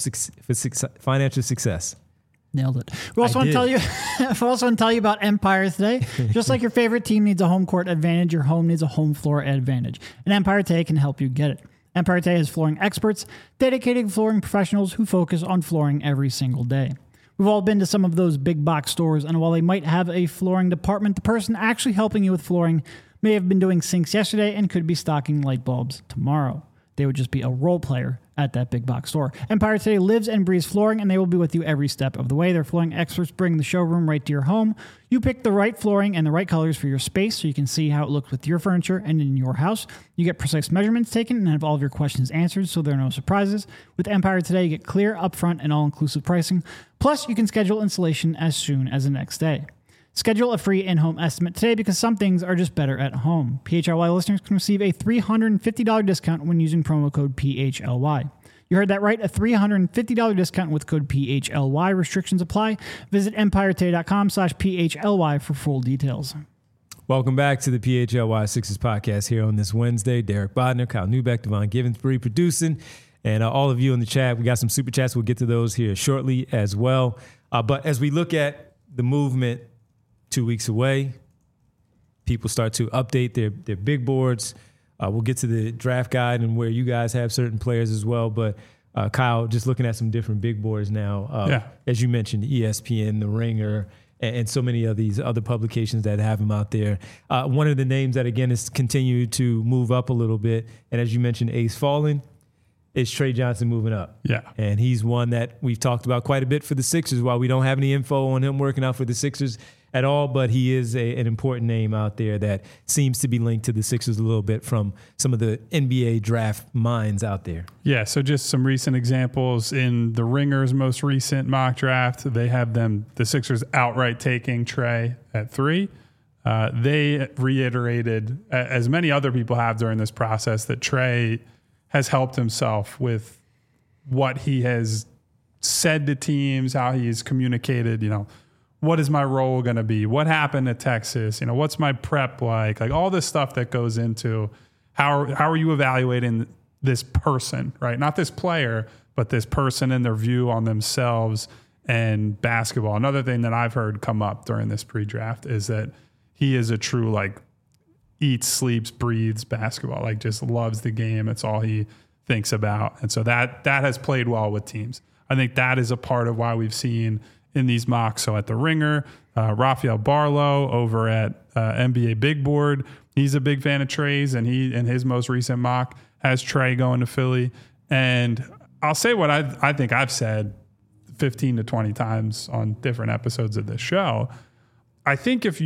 success. Nailed it. We also want to tell you about Empire today. Just like your favorite team needs a home court advantage, your home needs a home floor advantage. And Empire Today can help you get it. Empire Today has flooring experts, dedicated flooring professionals who focus on flooring every single day. We've all been to some of those big box stores, and while they might have a flooring department, the person actually helping you with flooring may have been doing sinks yesterday and could be stocking light bulbs tomorrow. They would just be a role player at that big box store. Empire Today lives and breathes flooring, and they will be with you every step of the way. Their flooring experts bring the showroom right to your home. You pick the right flooring and the right colors for your space so you can see how it looks with your furniture and in your house. You get precise measurements taken and have all of your questions answered so there are no surprises. With Empire Today, you get clear, upfront, and all-inclusive pricing. Plus, you can schedule installation as soon as the next day. Schedule a free in-home estimate today because some things are just better at home. PHLY listeners can receive a $350 discount when using promo code PHLY. You heard that right. A $350 discount with code PHLY. Restrictions apply. Visit EmpireToday.com/PHLY for full details. Welcome back to the PHLY Sixers podcast here on this Wednesday. Derek Bodner, Kyle Newbeck, Devon Givensbury producing, and all of you in the chat. We got some super chats. We'll get to those here shortly as well. But as we look at the movement 2 weeks away, people start to update their big boards. We'll get to the draft guide and where you guys have certain players as well. But Kyle, just looking at some different big boards now, as you mentioned, ESPN, The Ringer, and so many of these other publications that have him out there. One of the names that, again, has continued to move up a little bit, and as you mentioned, Ace falling, is Trey Johnson moving up. Yeah. And he's one that we've talked about quite a bit for the Sixers. While we don't have any info on him working out for the Sixers at all, but he is an important name out there that seems to be linked to the Sixers a little bit from some of the NBA draft minds out there. Yeah, so just some recent examples. In the Ringer's most recent mock draft, they have the Sixers outright taking Trey at 3. They reiterated, as many other people have during this process, that Trey has helped himself with what he has said to teams, how he's communicated, what is my role going to be? What happened at Texas? What's my prep like? Like all this stuff that goes into how are you evaluating this person, right? Not this player, but this person and their view on themselves and basketball. Another thing that I've heard come up during this pre-draft is that he is a true, eats, sleeps, breathes basketball, just loves the game. It's all he thinks about. And so that has played well with teams. I think that is a part of why we've seen in these mocks. So at the Ringer, Rafael Barlow over at NBA Big Board, he's a big fan of Trey's, and he, in his most recent mock, has Trey going to Philly. And I'll say what I think I've said 15 to 20 times on different episodes of this show. I think if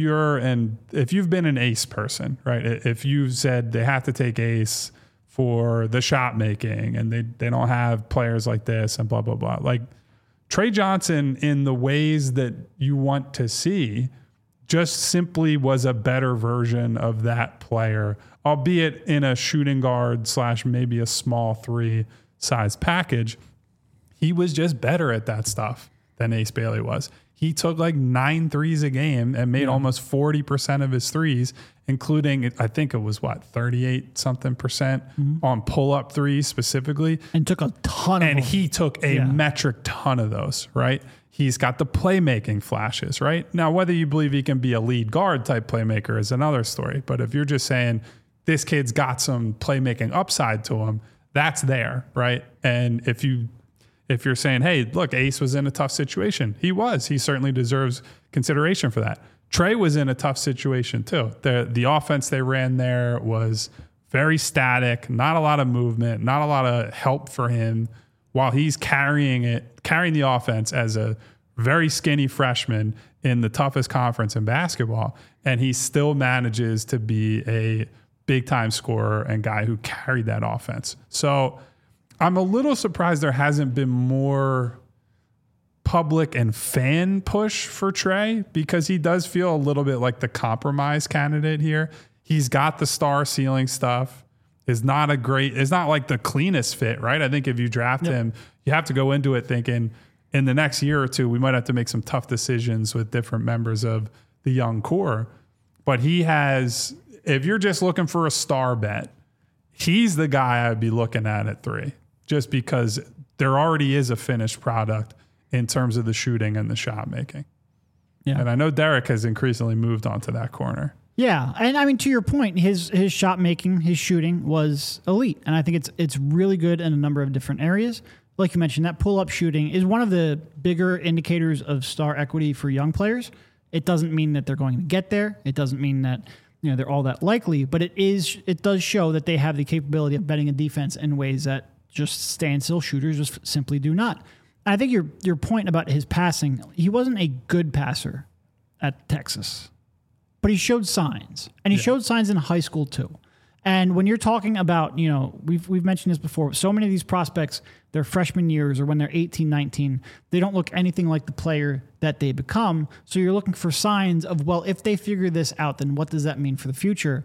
you've been an Ace person, right? If you said they have to take Ace for the shot making and they don't have players like this and blah, blah, blah. Trey Johnson, in the ways that you want to see, just simply was a better version of that player, albeit in a shooting guard / maybe a small 3 size package. He was just better at that stuff than Ace Bailey was. He took 9 threes a game and made almost 40% of his threes, including, I think it was 38 something percent on pull-up threes specifically. And took a ton of them. And he took a metric ton of those, right? He's got the playmaking flashes, right? Now, whether you believe he can be a lead guard type playmaker is another story. But if you're just saying this kid's got some playmaking upside to him, that's there, right? And if you're saying, hey, look, Ace was in a tough situation. He was. He certainly deserves consideration for that. Trey was in a tough situation too. The offense they ran there was very static, not a lot of movement, not a lot of help for him while he's carrying the offense as a very skinny freshman in the toughest conference in basketball. And he still manages to be a big-time scorer and guy who carried that offense. So I'm a little surprised there hasn't been more public and fan push for Trey, because he does feel a little bit like the compromise candidate here. He's got the star ceiling stuff. It's not like the cleanest fit, right? I think if you draft him, you have to go into it thinking in the next year or two, we might have to make some tough decisions with different members of the young core. But he has, if you're just looking for a star bet, he's the guy I'd be looking at 3, just because there already is a finished product in terms of the shooting and the shot making. Yeah. And I know Derek has increasingly moved on to that corner. Yeah. And I mean, to your point, his shot making, his shooting was elite. And I think it's really good in a number of different areas. Like you mentioned, that pull-up shooting is one of the bigger indicators of star equity for young players. It doesn't mean that they're going to get there. It doesn't mean that they're all that likely, but it does show that they have the capability of betting a defense in ways that just standstill shooters just simply do not. I think your point about his passing, he wasn't a good passer at Texas, but he showed signs, and he showed signs in high school too. And when you're talking about, we've mentioned this before, so many of these prospects, their freshman years or when they're 18, 19, they don't look anything like the player that they become. So you're looking for signs of, well, if they figure this out, then what does that mean for the future?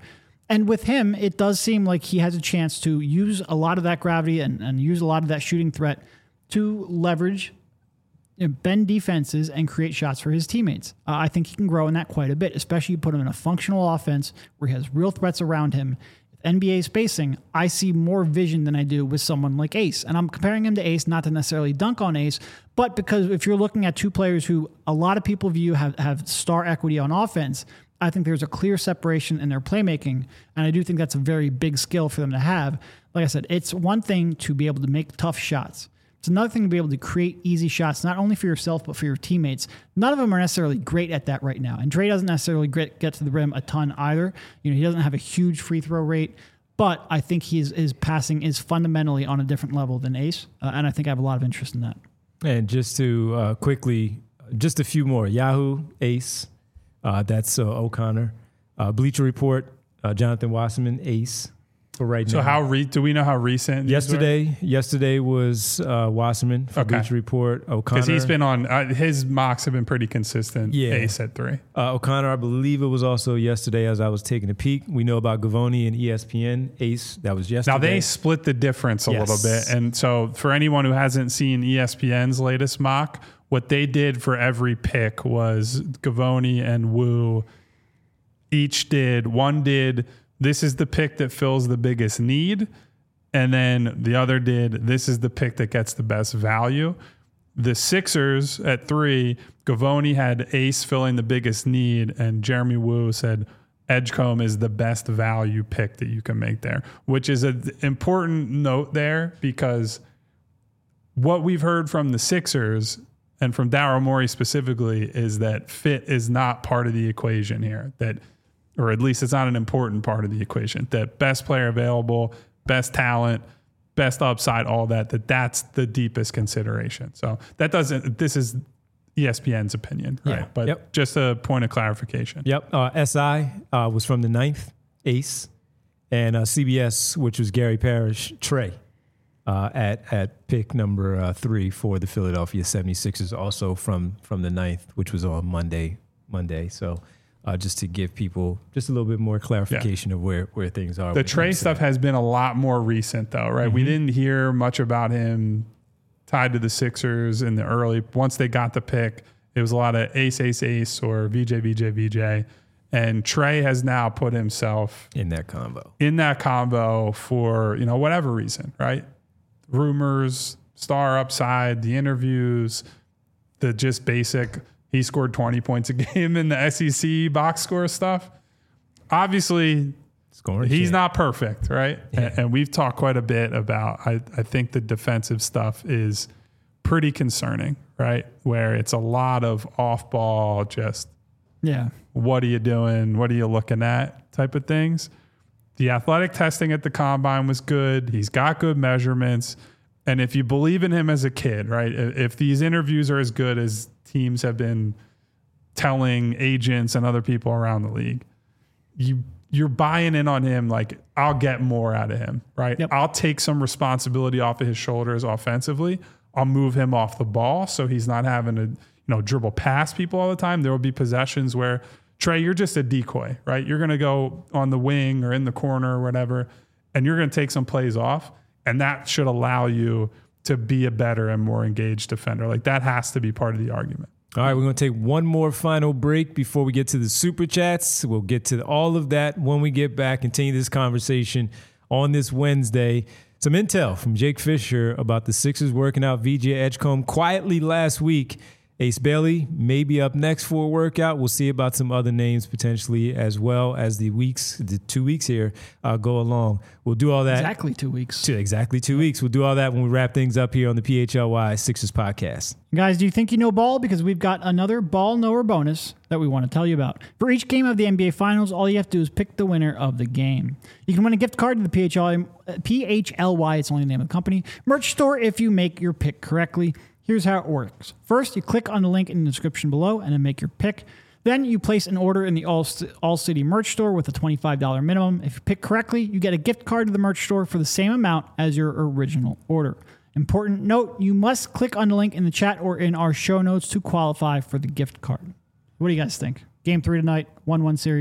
And with him, it does seem like he has a chance to use a lot of that gravity and use a lot of that shooting threat to leverage, bend defenses and create shots for his teammates. I think he can grow in that quite a bit, especially you put him in a functional offense where he has real threats around him. NBA spacing, I see more vision than I do with someone like Ace. And I'm comparing him to Ace, not to necessarily dunk on Ace, but because if you're looking at two players who a lot of people view have star equity on offense, I think there's a clear separation in their playmaking. And I do think that's a very big skill for them to have. Like I said, it's one thing to be able to make tough shots. It's another thing to be able to create easy shots, not only for yourself, but for your teammates. None of them are necessarily great at that right now. And Dre doesn't necessarily get to the rim a ton either. He doesn't have a huge free throw rate, but I think his passing is fundamentally on a different level than Ace. And I think I have a lot of interest in that. And just to quickly, just a few more. Yahoo, Ace, that's O'Connor. Bleacher Report, Jonathan Wasserman, Ace. Right so now. Do we know how recent? Yesterday was Wasserman for Bleacher Report. O'Connor, because he's been on his mocks have been pretty consistent. Yeah. Ace at 3. O'Connor, I believe it was also yesterday as I was taking a peek. We know about Gavoni and ESPN. Ace, that was yesterday. Now they split the difference a little bit, and so for anyone who hasn't seen ESPN's latest mock, what they did for every pick was Gavoni and Wu each did. One did. This is the pick that fills the biggest need. And then the other did, this is the pick that gets the best value. The Sixers at 3, Gavoni had Ace filling the biggest need, and Jeremy Wu said Edgecombe is the best value pick that you can make there, which is an important note there because what we've heard from the Sixers and from Daryl Morey specifically is that fit is not part of the equation here, or at least it's not an important part of the equation, that best player available, best talent, best upside, all that's the deepest consideration. So this is ESPN's opinion, right? But just a point of clarification. SI was from the 9th, Ace, and CBS, which was Gary Parrish, Trey, at pick number 3 for the Philadelphia 76ers, also from the 9th, which was on Monday. So just to give people just a little bit more clarification of where things are. The Trey stuff has been a lot more recent, though, right? Mm-hmm. We didn't hear much about him tied to the Sixers in the early. Once they got the pick, it was a lot of Ace or VJ. And Trey has now put himself in that combo for, whatever reason, right? Rumors, star upside, the interviews, the just basic. He scored 20 points a game in the SEC box score stuff. Obviously, he's not perfect, right? Yeah. And we've talked quite a bit about, I think the defensive stuff is pretty concerning, right? Where it's a lot of off-ball, just, what are you doing? What are you looking at type of things. The athletic testing at the combine was good. He's got good measurements. And if you believe in him as a kid, right? If these interviews are as good as teams have been telling agents and other people around the league, you're buying in on him. Like, I'll get more out of him, right? Yep. I'll take some responsibility off of his shoulders offensively. I'll move him off the ball so he's not having to, dribble past people all the time. There will be possessions where, Trey, you're just a decoy, right? You're going to go on the wing or in the corner or whatever, and you're going to take some plays off. And that should allow you to be a better and more engaged defender. Like, that has to be part of the argument. All right, we're going to take one more final break before we get to the Super Chats. We'll get to all of that when we get back, continue this conversation on this Wednesday. Some intel from Jake Fisher about the Sixers working out VJ Edgecombe quietly last week. Ace Bailey may be up next for a workout. We'll see about some other names potentially as well as the 2 weeks here go along. We'll do all that. Exactly 2 weeks. Exactly 2 weeks. We'll do all that when we wrap things up here on the PHLY Sixers podcast. Guys, do you think you know ball? Because we've got another ball knower bonus that we want to tell you about. For each game of the NBA Finals, all you have to do is pick the winner of the game. You can win a gift card to the PHLY, it's only the name of the company, merch store if you make your pick correctly. Here's how it works. First, you click on the link in the description below and then make your pick. Then you place an order in the All City merch store with a $25 minimum. If you pick correctly, you get a gift card to the merch store for the same amount as your original order. Important note, you must click on the link in the chat or in our show notes to qualify for the gift card. What do you guys think? Game 3 tonight, 1-1 series.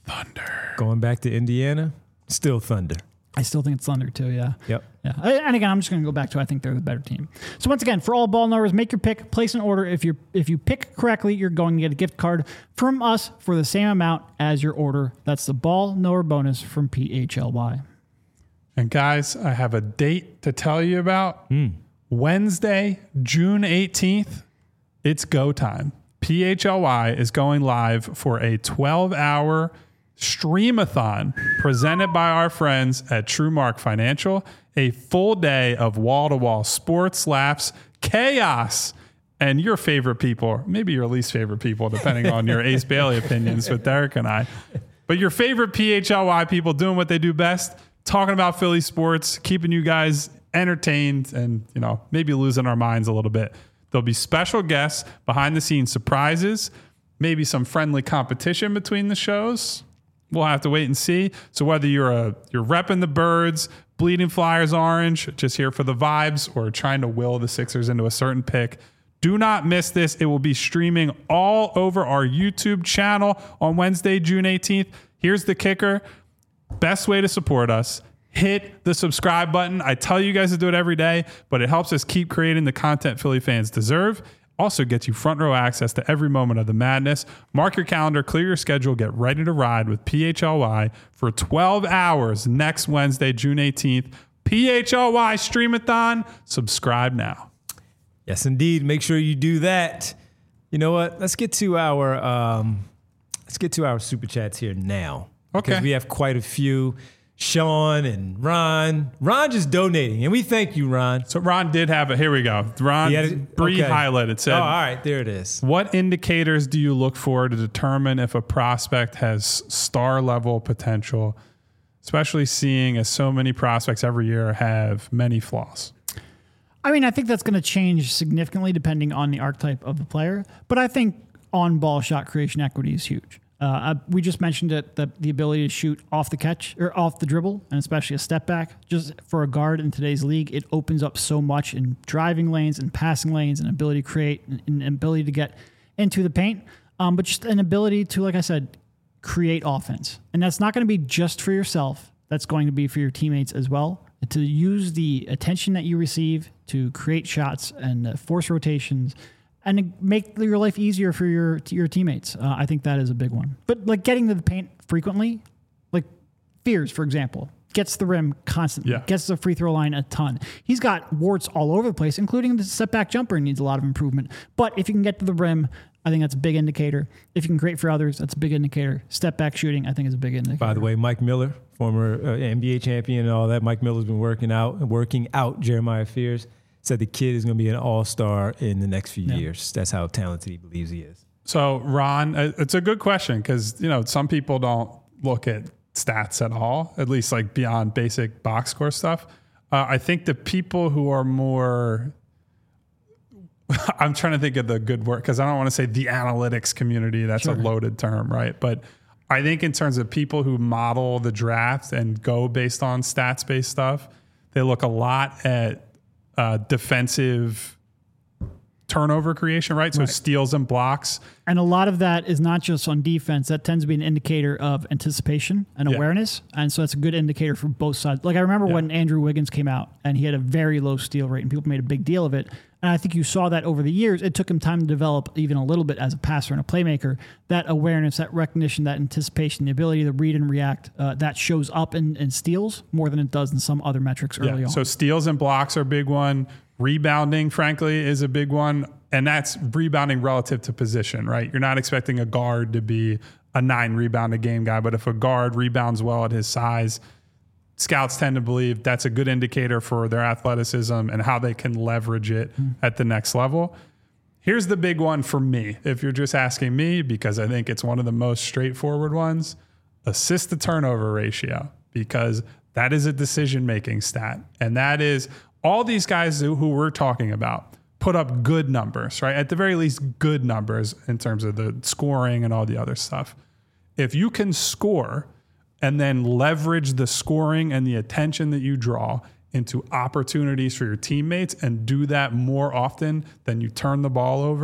Thunder. Going back to Indiana, still Thunder. I still think it's Thunder too, yeah. Yep. Yeah. And again, I'm just going to go back to I think they're the better team. So once again, for all ball knowers, make your pick, place an order. If you pick correctly, you're going to get a gift card from us for the same amount as your order. That's the ball knower bonus from PHLY. And guys, I have a date to tell you about. Wednesday, June 18th, it's go time. PHLY is going live for a 12-hour streamathon presented by our friends at TrueMark Financial. A full day of wall-to-wall sports, laughs, chaos, and your favorite people, maybe your least favorite people, depending on your Ace Bailey opinions with Derek and I. But your favorite PHLY people doing what they do best, talking about Philly sports, keeping you guys entertained and, maybe losing our minds a little bit. There'll be special guests, behind-the-scenes surprises, maybe some friendly competition between the shows. We'll have to wait and see. So whether you're repping the Birds, bleeding Flyers orange, just here for the vibes, or trying to will the Sixers into a certain pick, do not miss this. It will be streaming all over our YouTube channel on Wednesday, June 18th. Here's the kicker. Best way to support us. Hit the subscribe button. I tell you guys to do it every day, but it helps us keep creating the content Philly fans deserve. Also gets you front row access to every moment of the madness. Mark your calendar, clear your schedule, get ready to ride with PHLY for 12 hours next Wednesday, June 18th. PHLY Streamathon. Subscribe now. Yes, indeed. Make sure you do that. You know what? Let's get to our super chats here now. Okay. Because we have quite a few. Sean and Ron. Ron just donating, and we thank you, Ron. So Ron did have here we go. Ron, Bree highlighted, said, all right, there it is. What indicators do you look for to determine if a prospect has star level potential, especially seeing as so many prospects every year have many flaws? I mean, I think that's going to change significantly depending on the archetype of the player, but I think on-ball shot creation equity is huge. We just mentioned it, the ability to shoot off the catch or off the dribble, and especially a step back. Just for a guard in today's league, it opens up so much in driving lanes and passing lanes, and ability to create and ability to get into the paint. But just an ability to, like I said, create offense. And that's not going to be just for yourself. That's going to be for your teammates as well. To use the attention that you receive to create shots and force rotations and make your life easier for your teammates. I think that is a big one. But like getting to the paint frequently, like Fears, for example, gets the rim constantly, gets the free throw line a ton. He's got warts all over the place, including the step back jumper needs a lot of improvement. But if you can get to the rim, I think that's a big indicator. If you can create for others, that's a big indicator. Step back shooting, I think, is a big indicator. By the way, Mike Miller, former NBA champion and all that, Mike Miller's been working out Jeremiah Fears. Said the kid is going to be an all-star in the next few years. That's how talented he believes he is. So, Ron, it's a good question because, some people don't look at stats at all, at least like beyond basic box score stuff. I think the people who are more, I'm trying to think of the good word because I don't want to say the analytics community. That's a loaded term, right? But I think in terms of people who model the draft and go based on stats-based stuff, they look a lot at defensive turnover creation, right? So steals and blocks. And a lot of that is not just on defense. That tends to be an indicator of anticipation and awareness. And so that's a good indicator for both sides. Like I remember when Andrew Wiggins came out and he had a very low steal rate and people made a big deal of it. And I think you saw that over the years. It took him time to develop even a little bit as a passer and a playmaker. That awareness, that recognition, that anticipation, the ability to read and react, that shows up in steals more than it does in some other metrics early on. So steals and blocks are a big one. Rebounding, frankly, is a big one. And that's rebounding relative to position, right? You're not expecting a guard to be a 9 rebound a game guy, but if a guard rebounds well at his size, scouts tend to believe that's a good indicator for their athleticism and how they can leverage it at the next level. Here's the big one for me, if you're just asking me, because I think it's one of the most straightforward ones, assist to turnover ratio, because that is a decision-making stat. And that is all these guys who we're talking about put up good numbers, right? At the very least, good numbers in terms of the scoring and all the other stuff. If you can score and then leverage the scoring and the attention that you draw into opportunities for your teammates and do that more often than you turn the ball over,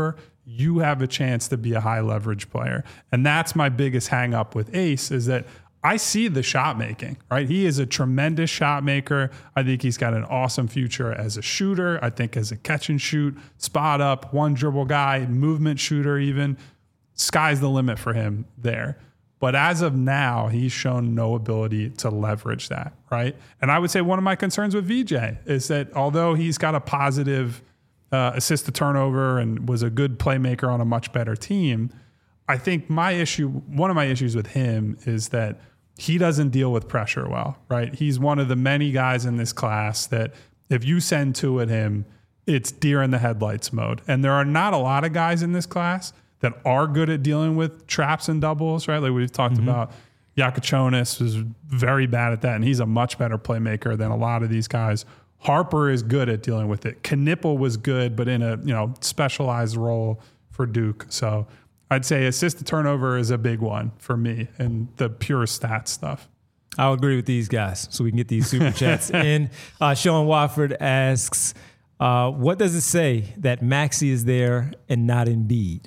you have a chance to be a high leverage player. And that's my biggest hang up with Ace, is that I see the shot making, right? He is a tremendous shot maker. I think he's got an awesome future as a shooter. I think as a catch and shoot, spot up, one dribble guy, movement shooter even. Sky's the limit for him there. But as of now, he's shown no ability to leverage that, right? And I would say one of my concerns with VJ is that although he's got a positive assist to turnover and was a good playmaker on a much better team, I think one of my issues with him is that he doesn't deal with pressure well, right? He's one of the many guys in this class that if you send two at him, it's deer in the headlights mode. And there are not a lot of guys in this class that are good at dealing with traps and doubles, right? Like we've talked about, Yakachonis was very bad at that, and he's a much better playmaker than a lot of these guys. Harper is good at dealing with it. Knipple was good, but in a specialized role for Duke. So I'd say assist to turnover is a big one for me and the pure stats stuff. I'll agree with these guys so we can get these super chats in. Sean Wofford asks, what does it say that Maxey is there and not Embiid?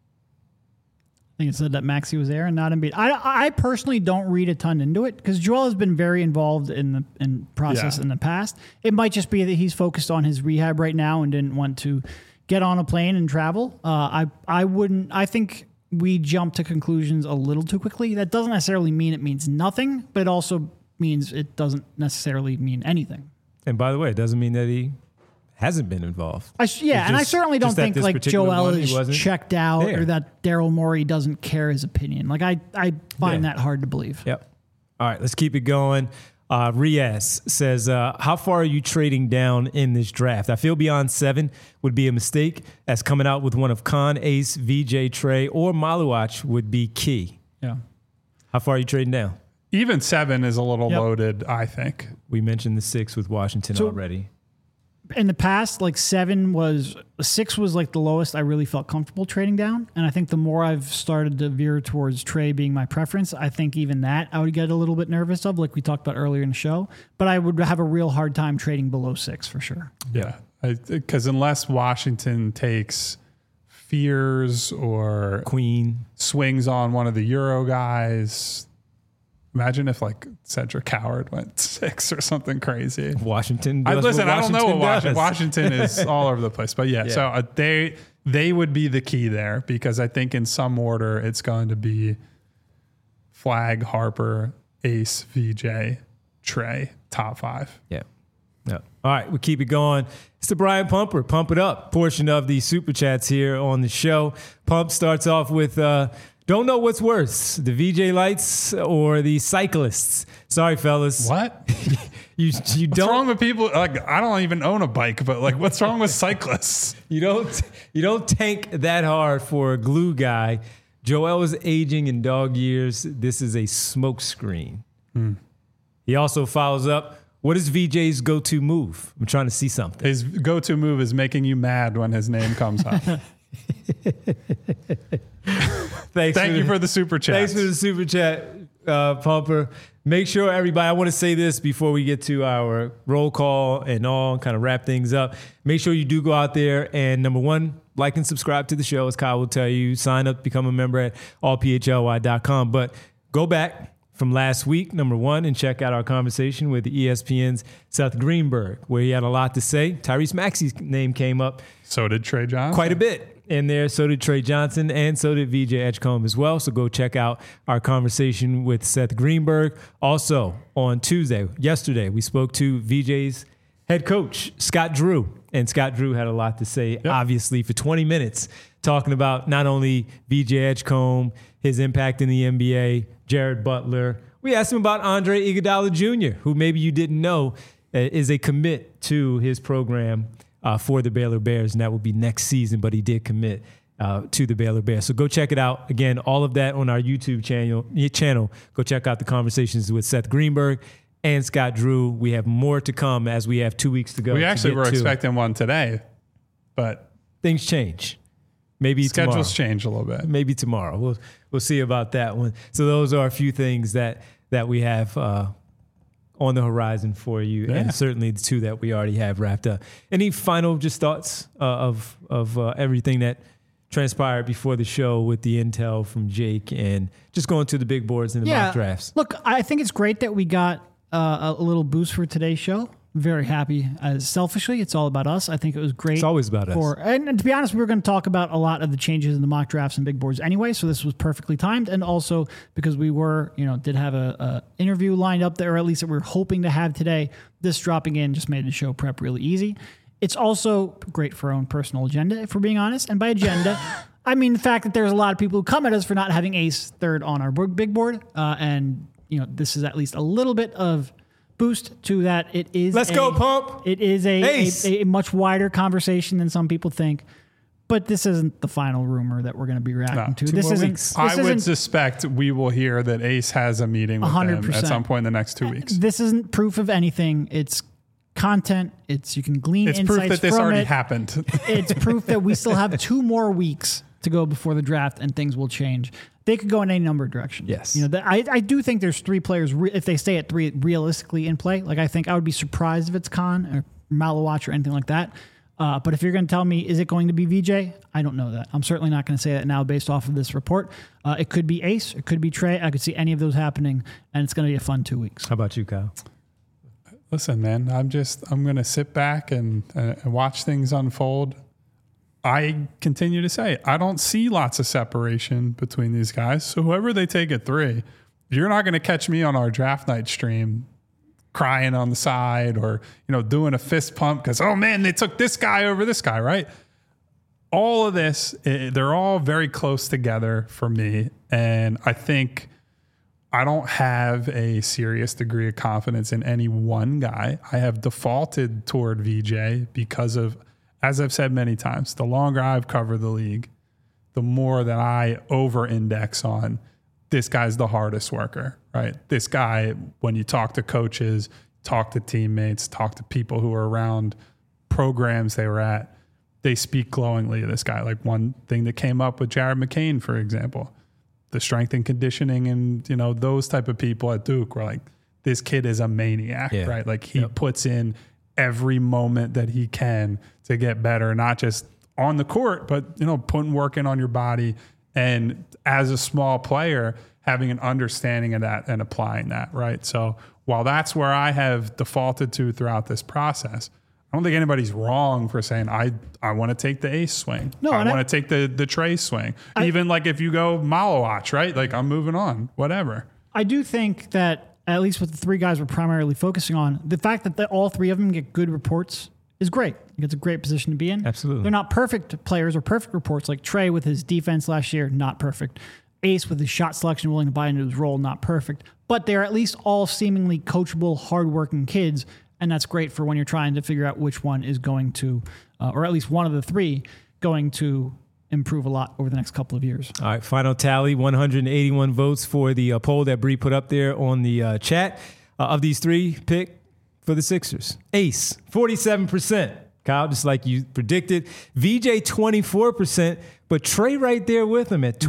I think it said that Maxey was there and not Embiid. I personally don't read a ton into it because Joel has been very involved in the process in the past. It might just be that he's focused on his rehab right now and didn't want to get on a plane and travel. I think we jump to conclusions a little too quickly. That doesn't necessarily mean it means nothing, but it also means it doesn't necessarily mean anything. And by the way, it doesn't mean that he hasn't been involved. I certainly don't think like Joel is checked out or that Daryl Morey doesn't care his opinion. Like I find that hard to believe. Yep. All right, let's keep it going. Riaz says, how far are you trading down in this draft? I feel beyond 7 would be a mistake, as coming out with one of Khan, Ace, VJ, Trey, or Maluach would be key. Yeah. How far are you trading down? Even 7 is a little loaded, I think. We mentioned the 6 with Washington already. In the past, like 6 was like the lowest I really felt comfortable trading down. And I think the more I've started to veer towards Trey being my preference, I think even that I would get a little bit nervous of, like we talked about earlier in the show. But I would have a real hard time trading below 6 for sure. Yeah. Because unless Washington takes Fears or Queen swings on one of the Euro guys. Imagine if like Cedric Howard went 6 or something crazy. Washington. I don't know what Washington is all over the place, but yeah. So they would be the key there because I think in some order it's going to be Flag, Harper, Ace, VJ, Trey, top 5. Yeah. All right, we keep it going. It's the Brian Pumper, Pump It Up portion of the Super Chats here on the show. Pump starts off with, don't know what's worse, the VJ Lights or the cyclists. Sorry, fellas. What? you what's don't. wrong with people? Like, I don't even own a bike, but like, what's wrong with cyclists? You don't tank that hard for a glue guy. Joel is aging in dog years. This is a smoke screen. He also follows up. What is VJ's go-to move? I'm trying to see something. His go-to move is making you mad when his name comes up. Thank you for the super chat. Thanks for the super chat, Pumper. Make sure everybody, I want to say this before we get to our roll call and all, kind of wrap things up. Make sure you do go out there and, number one, like and subscribe to the show, as Kyle will tell you. Sign up, become a member at allphly.com. But go back from last week, number one, and check out our conversation with ESPN's Seth Greenberg, where he had a lot to say. Tyrese Maxey's name came up. So did Trey Johnson. Quite a bit in there. So did Trey Johnson, and so did VJ Edgecombe as well. So go check out our conversation with Seth Greenberg. Also, on yesterday, we spoke to VJ's head coach, Scott Drew. And Scott Drew had a lot to say, obviously, for 20 minutes, talking about not only VJ Edgecombe, his impact in the NBA, Jared Butler. We asked him about Andre Iguodala Jr., who maybe you didn't know is a commit to his program for the Baylor Bears, and that will be next season, but he did commit to the Baylor Bears. So go check it out. Again, all of that on our YouTube channel. Go check out the conversations with Seth Greenberg and Scott Drew. We have more to come as we have 2 weeks to go. We actually were expecting one today, but things change. Maybe schedules tomorrow. change a little bit. Maybe tomorrow. We'll see about that one. So those are a few things that we have on the horizon for you, and certainly the 2 that we already have wrapped up. Any final just thoughts of everything that transpired before the show with the intel from Jake and just going to the big boards and the mock drafts. Look, I think it's great that we got a little boost for today's show. Very happy. Selfishly, it's all about us. I think it was great. It's always about us. And to be honest, we were going to talk about a lot of the changes in the mock drafts and big boards anyway, so this was perfectly timed. And also because we were, did have a interview lined up there, or at least that we were hoping to have today. This dropping in just made the show prep really easy. It's also great for our own personal agenda, if we're being honest. And by agenda, I mean the fact that there's a lot of people who come at us for not having Ace third on our big board. And this is at least a little bit of boost to that. It is go Pump. It is a much wider conversation than some people think. But this isn't the final rumor that we're going to be reacting to. This isn't. I would suspect we will hear that Ace has a meeting with 100%. Them at some point in the next 2 weeks. This isn't proof of anything. It's content. You can glean insights from it. It's proof that this already happened. It's proof that we still have 2 more weeks to go before the draft and things will change. They could go in any number of directions. Yes. I do think there's 3 players, if they stay at 3 realistically in play. Like, I think I would be surprised if it's Khan or Malawatch or anything like that. But if you're going to tell me, is it going to be VJ? I don't know that. I'm certainly not going to say that now based off of this report. It could be Ace. It could be Trey. I could see any of those happening, and it's going to be a fun 2 weeks. How about you, Kyle? Listen, man, I'm going to sit back and watch things unfold. I continue to say, I don't see lots of separation between these guys. So whoever they take at 3, you're not going to catch me on our draft night stream crying on the side or, doing a fist pump because, oh man, they took this guy over this guy, right? All of this, they're all very close together for me. And I think I don't have a serious degree of confidence in any one guy. I have defaulted toward VJ because of, as I've said many times, the longer I've covered the league, the more that I over-index on this guy's the hardest worker, right? This guy, when you talk to coaches, talk to teammates, talk to people who are around programs they were at, they speak glowingly of this guy. Like one thing that came up with Jared McCain, for example, the strength and conditioning and, those type of people at Duke were like, this kid is a maniac, right? Like he puts in every moment that he can to get better, not just on the court, but, putting work in on your body. And as a small player, having an understanding of that and applying that, right? So while that's where I have defaulted to throughout this process, I don't think anybody's wrong for saying, I want to take the Ace swing. No, I want to take the Trey swing. Even like if you go Malawatch, right? Like I'm moving on, whatever. I do think that at least with the 3 guys we're primarily focusing on, the fact that all 3 of them get good reports is great. It's a great position to be in. Absolutely. They're not perfect players or perfect reports like Trey with his defense last year, not perfect. Ace with his shot selection, willing to buy into his role, not perfect. But they're at least all seemingly coachable, hardworking kids, and that's great for when you're trying to figure out which one is going to, or at least one of the 3, going to improve a lot over the next couple of years. All right, final tally, 181 votes for the poll that Bree put up there on the chat. Of these 3, pick for the Sixers. Ace, 47%. Kyle, just like you predicted. VJ, 24%, but Trey right there with him at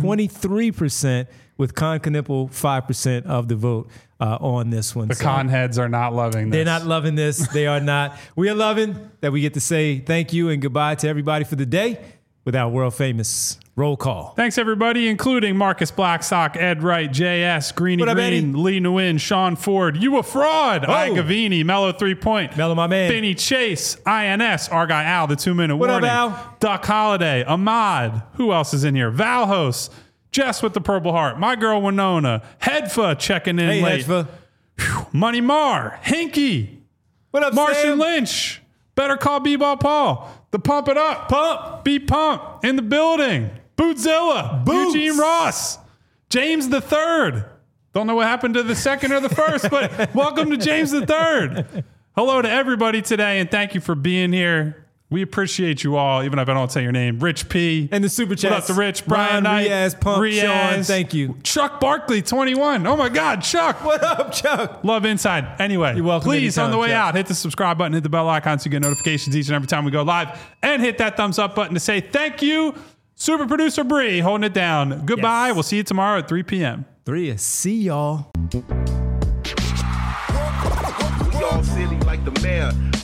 23%, with Con Knipple 5% of the vote on this one. The con heads are not loving this. They're not loving this. They are not. We are loving that we get to say thank you and goodbye to everybody for the day with our world famous roll call. Thanks, everybody, including Marcus Blackstock, Ed Wright, JS, Greeny Green, Lee Nguyen, Sean Ford, You a Fraud, I Gavini, Mellow 3 Point, Mellow my man, Benny Chase, INS, Our Guy Al, the 2-minute what warning, up, Al? Duck Holiday, Ahmad, who else is in here? Valhos, Jess with the Purple Heart, My Girl Winona, Hedfa checking in late. Hedfa. Money Mar, Hinky, what up, Martian Sam? Lynch, Better Call B-Ball Paul, the Pump It Up, Pump, Be Pump in the building, Bootzilla, Boots. Eugene Ross, James the Third. Don't know what happened to the second or the first, but welcome to James the Third. Hello to everybody today, and thank you for being here. We appreciate you all, even if I don't say your name. Rich P. And the super chat. What up to Rich, Brian Knight, Riaz, Pump, Sean, thank you. Chuck Barkley, 21. Oh my God, Chuck. What up, Chuck? Love Inside. Anyway, you're welcome. Please, anytime, on the way Chuck. out, hit the subscribe button, hit the bell icon so you get notifications each and every time we go live. And hit that thumbs up button to say thank you. Super producer Bree holding it down. Goodbye. Yes. We'll see you tomorrow at 3 p.m. 3. See y'all. Y'all silly like the mayor.